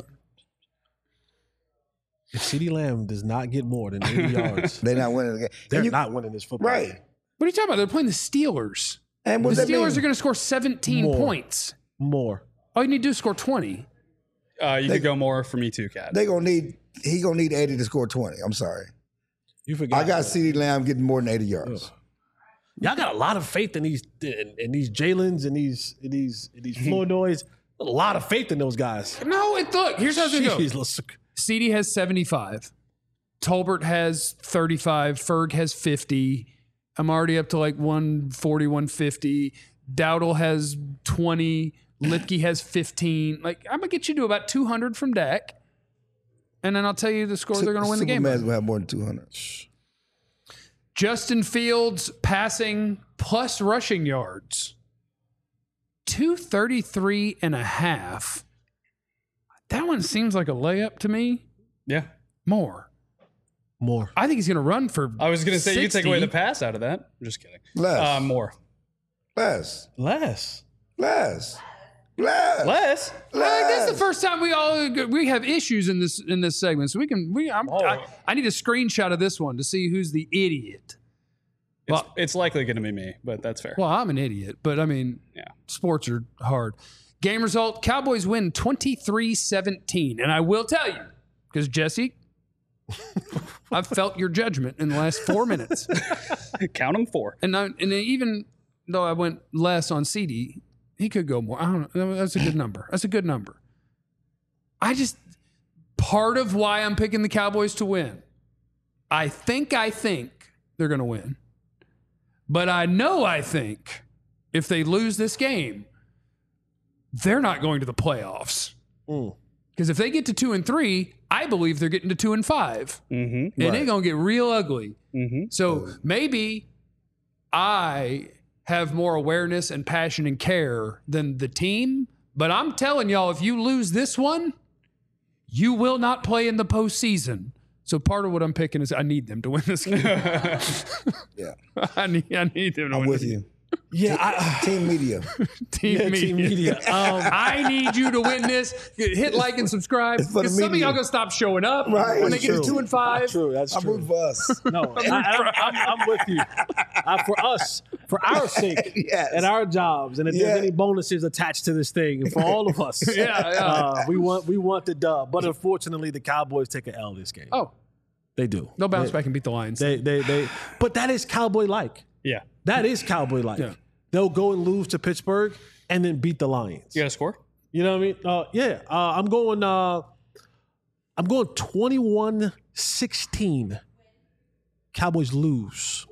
If CeeDee Lamb does not get more than eighty yards, They're not winning the game. they're And you- not winning this football Right. game. What are you talking about? They're playing the Steelers. And what The does that Steelers mean? are going to score seventeen More. points. More. All you need to do is score twenty. Uh, you They- could go more for me too, Cat. They gonna need he gonna need eighty to score twenty. I'm sorry. You forgot. I got CeeDee Lamb getting more than eighty yards. Y'all got a lot of faith in these in, in these Jalen's and these in these in these Flournoys. A lot of faith in those guys. No, it, look, here's how it's going to go. Jeez, let's- CeeDee has seventy-five. Tolbert has thirty-five. Ferg has fifty. I'm already up to like one forty, one fifty. Dowdle has twenty. Lipke has fifteen. Like, I'm going to get you to about two hundred from Dak. And then I'll tell you the score they're going to win the game. Superman's gonna have more than two hundred. Justin Fields passing plus rushing yards. two thirty-three and a half. That one seems like a layup to me. Yeah. More. More. I think he's going to run for I was going to say you could take away the sixty. pass out of that. I'm just kidding. Less. Uh, more. Less. Less. Less. Less. Less? I think this is the first time we all we have issues in this in this segment, so we can we I'm, Oh. I, I need a screenshot of this one to see who's the idiot. It's, Well- it's likely going to be me, but that's fair. Well, I'm an idiot, but I mean, Yeah. sports are hard. Game result: Cowboys win twenty-three seventeen, and I will tell you because Jesse, I've felt your judgment in the last four minutes, Count them four. and I, and even though I went less on CeeDee, he could go more. I don't know. That's a good number. That's a good number. I just part of why I'm picking the Cowboys to win. I think I think they're going to win, but I know I think if they lose this game, they're not going to the playoffs. Mm. Because if they get to two and three, I believe they're getting to two and five, Mm-hmm. and it's going to get real ugly. Mm-hmm. So maybe I have more awareness and passion and care than the team. But I'm telling y'all, if you lose this one, you will not play in the postseason. So part of what I'm picking is I need them to win this game. Yeah. I need I need them to I'm win with this you. Yeah, I, Team media. Team yeah, media. team media. Um, I need you to win this. Hit like and subscribe. It's for the Because some of media. y'all gonna stop showing up Right. when they It's get to true. two and five. true. That's I'm true. rooting for us. No, I, I, I'm, I'm with you. Uh, for us, for our sake, Yes. and our jobs, and if Yeah. there's any bonuses attached to this thing, and for all of us, Yeah, yeah. Uh, we want we want the dub. But unfortunately, the Cowboys take an L this game. Oh, They do. they'll bounce they, back and beat the Lions. They, they, they. But that is Cowboy like. Yeah. That is Cowboy like. Yeah. They'll go and lose to Pittsburgh and then beat the Lions. You got a score? You know what I mean? Uh, yeah. Uh, I'm going. Uh, I'm going twenty-one sixteen. Cowboys lose.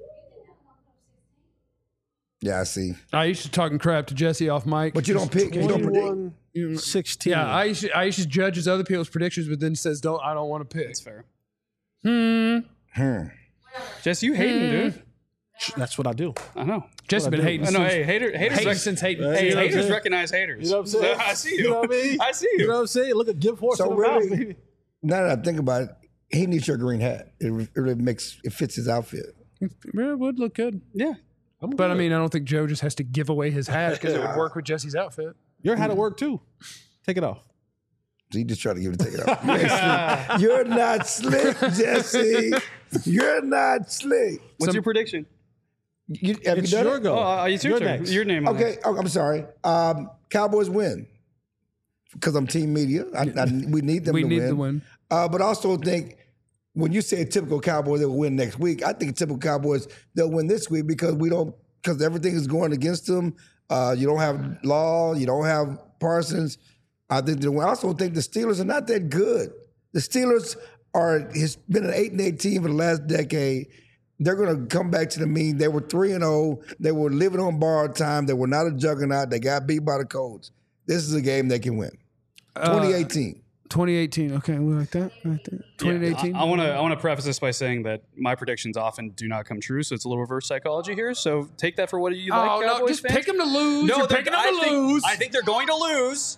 Yeah, I see. I used to talking crap to Jesse off mic. But you don't pick. You don't predict. twenty-one sixteen. Yeah, I used, to, I used to judge his other people's predictions, but then says, "Don't I don't want to pick." That's fair. Hmm. Hmm. Jess, you hating, dude. That's what I do. I know. Jesse been I do. hating. I know. since- Hey, hater, haters, hating rec- since hating. Hey, hey, you know what I'm haters saying? recognize haters. You know what I'm saying? I see you. You know what I mean? I see you. You know what I'm saying? Look at give horse So in the mouth, really, baby. now that I think about it, he needs your green hat. It, re- it really makes it fits his outfit. Yeah, it would look good. Yeah. But I mean, I don't think Joe just has to give away his hat because it would work with Jesse's outfit. Your hat at work too. Take it off. So he just tried to give it take it off. You ain't slick. You're not slick, Jesse. You're not slick. What's Some- your prediction? You, have It's you done your it? go. Oh, uh, it's your You're turn. next. Your name. on Okay, oh, I'm sorry. Um, Cowboys win because I'm team media. I, I, we need them We to need win. to win. Uh, but I also think when you say typical Cowboys, they'll win next week. I think typical Cowboys, they'll win this week because we don't because everything is going against them. Uh, you don't have Law, you don't have Parsons. I think they win. I also think the Steelers are not that good. The Steelers are has been an eight and eight team for the last decade. They're going to come back to the mean. They were three and zero. They were living on borrowed time. They were not a juggernaut. They got beat by the Colts. This is a game they can win. twenty eighteen. twenty eighteen. Okay, we like that. Like that. twenty eighteen. I want to I want to preface this by saying that my predictions often do not come true, so it's a little reverse psychology here. So take that for what you like. Oh no! Cowboys Just fans. pick them to lose. No, You're they're- picking them I to think, lose. I think they're going to lose.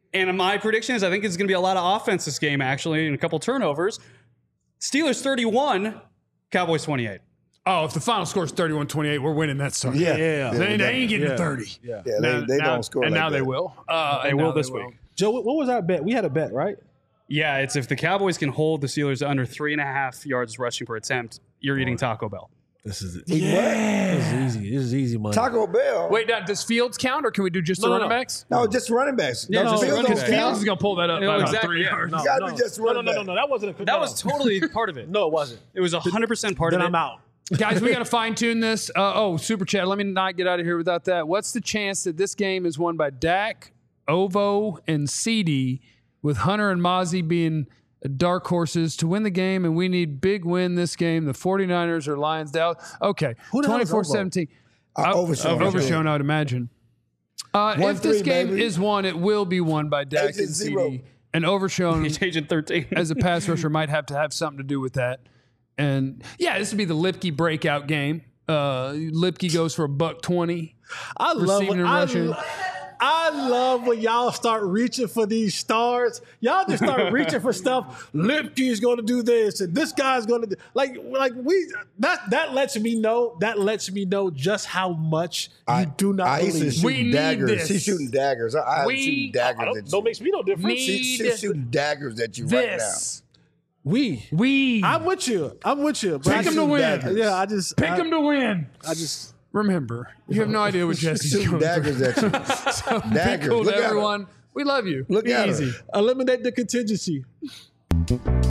And my prediction is I think it's going to be a lot of offense this game, actually, and a couple turnovers. Steelers thirty-one, Cowboys twenty-eight. Oh, if the final score is thirty-one twenty-eight, we're winning that sucker. Yeah, Yeah. They, they ain't getting Yeah. to thirty. Yeah. Yeah, Now- they, they now- don't score And like now that. they will. Uh, They and will now this will. week. Joe, what was our bet? We had a bet, right? Yeah, it's if the Cowboys can hold the Steelers to under three and a half yards rushing per attempt, you're eating Taco Bell. This is it. Eat what? This is easy. This is easy money. Taco Bell. Wait, now, does Fields count, or can we do just the No, no, running no. backs? No, just running backs. Yeah, no, just Fields running don't backs. Fields count. is going to pull that up Yeah, by about exactly, three yeah. yards. No, You gotta no. be just no, no, running no, no, back. no. That wasn't a That no. was totally part of it. No, it wasn't. It was one hundred percent part Then of it. I'm out. Guys, we got to fine tune this. Uh, oh, super chat. Let me not get out of here without that. What's the chance that this game is won by Dak, Ovo, and C D, with Hunter and Mozzie being dark horses to win the game, and we need big win this game? The 49ers or Lions down. Okay, Who the hell is twenty-four seventeen. Uh, Overshown. Overshown, I would imagine. Uh, One if this three, game baby. is won, it will be won by Dak Agent and C zero. D. And Overshown He's Agent thirteen. as a pass rusher might have to have something to do with that. And yeah, this would be the Lipke breakout game. Uh, Lipke goes for a buck twenty. I love Receiving when, and I, rushing. lo- I love when y'all start reaching for these stars. Y'all just start reaching for stuff. Lipke's going to do this, and this guy's going to do like like we that that lets me know that lets me know just how much I, you do not I used to believe. shoot We need daggers. this. She's shooting daggers. I, I We- am shooting I daggers don't, at don't you. makes me no difference. Me- She, need she's shooting daggers at you right now. This. we We. I'm with you. I'm with you. But I Pick 'em just- to win. daggers. Yeah, I just Pick I, them to win. I just Remember, you have no idea what Jesse's Shooting going daggers through. at you. So be Daggers. cool Look to at her. everyone. We love you. Look Be at her. easy. eliminate the contingency.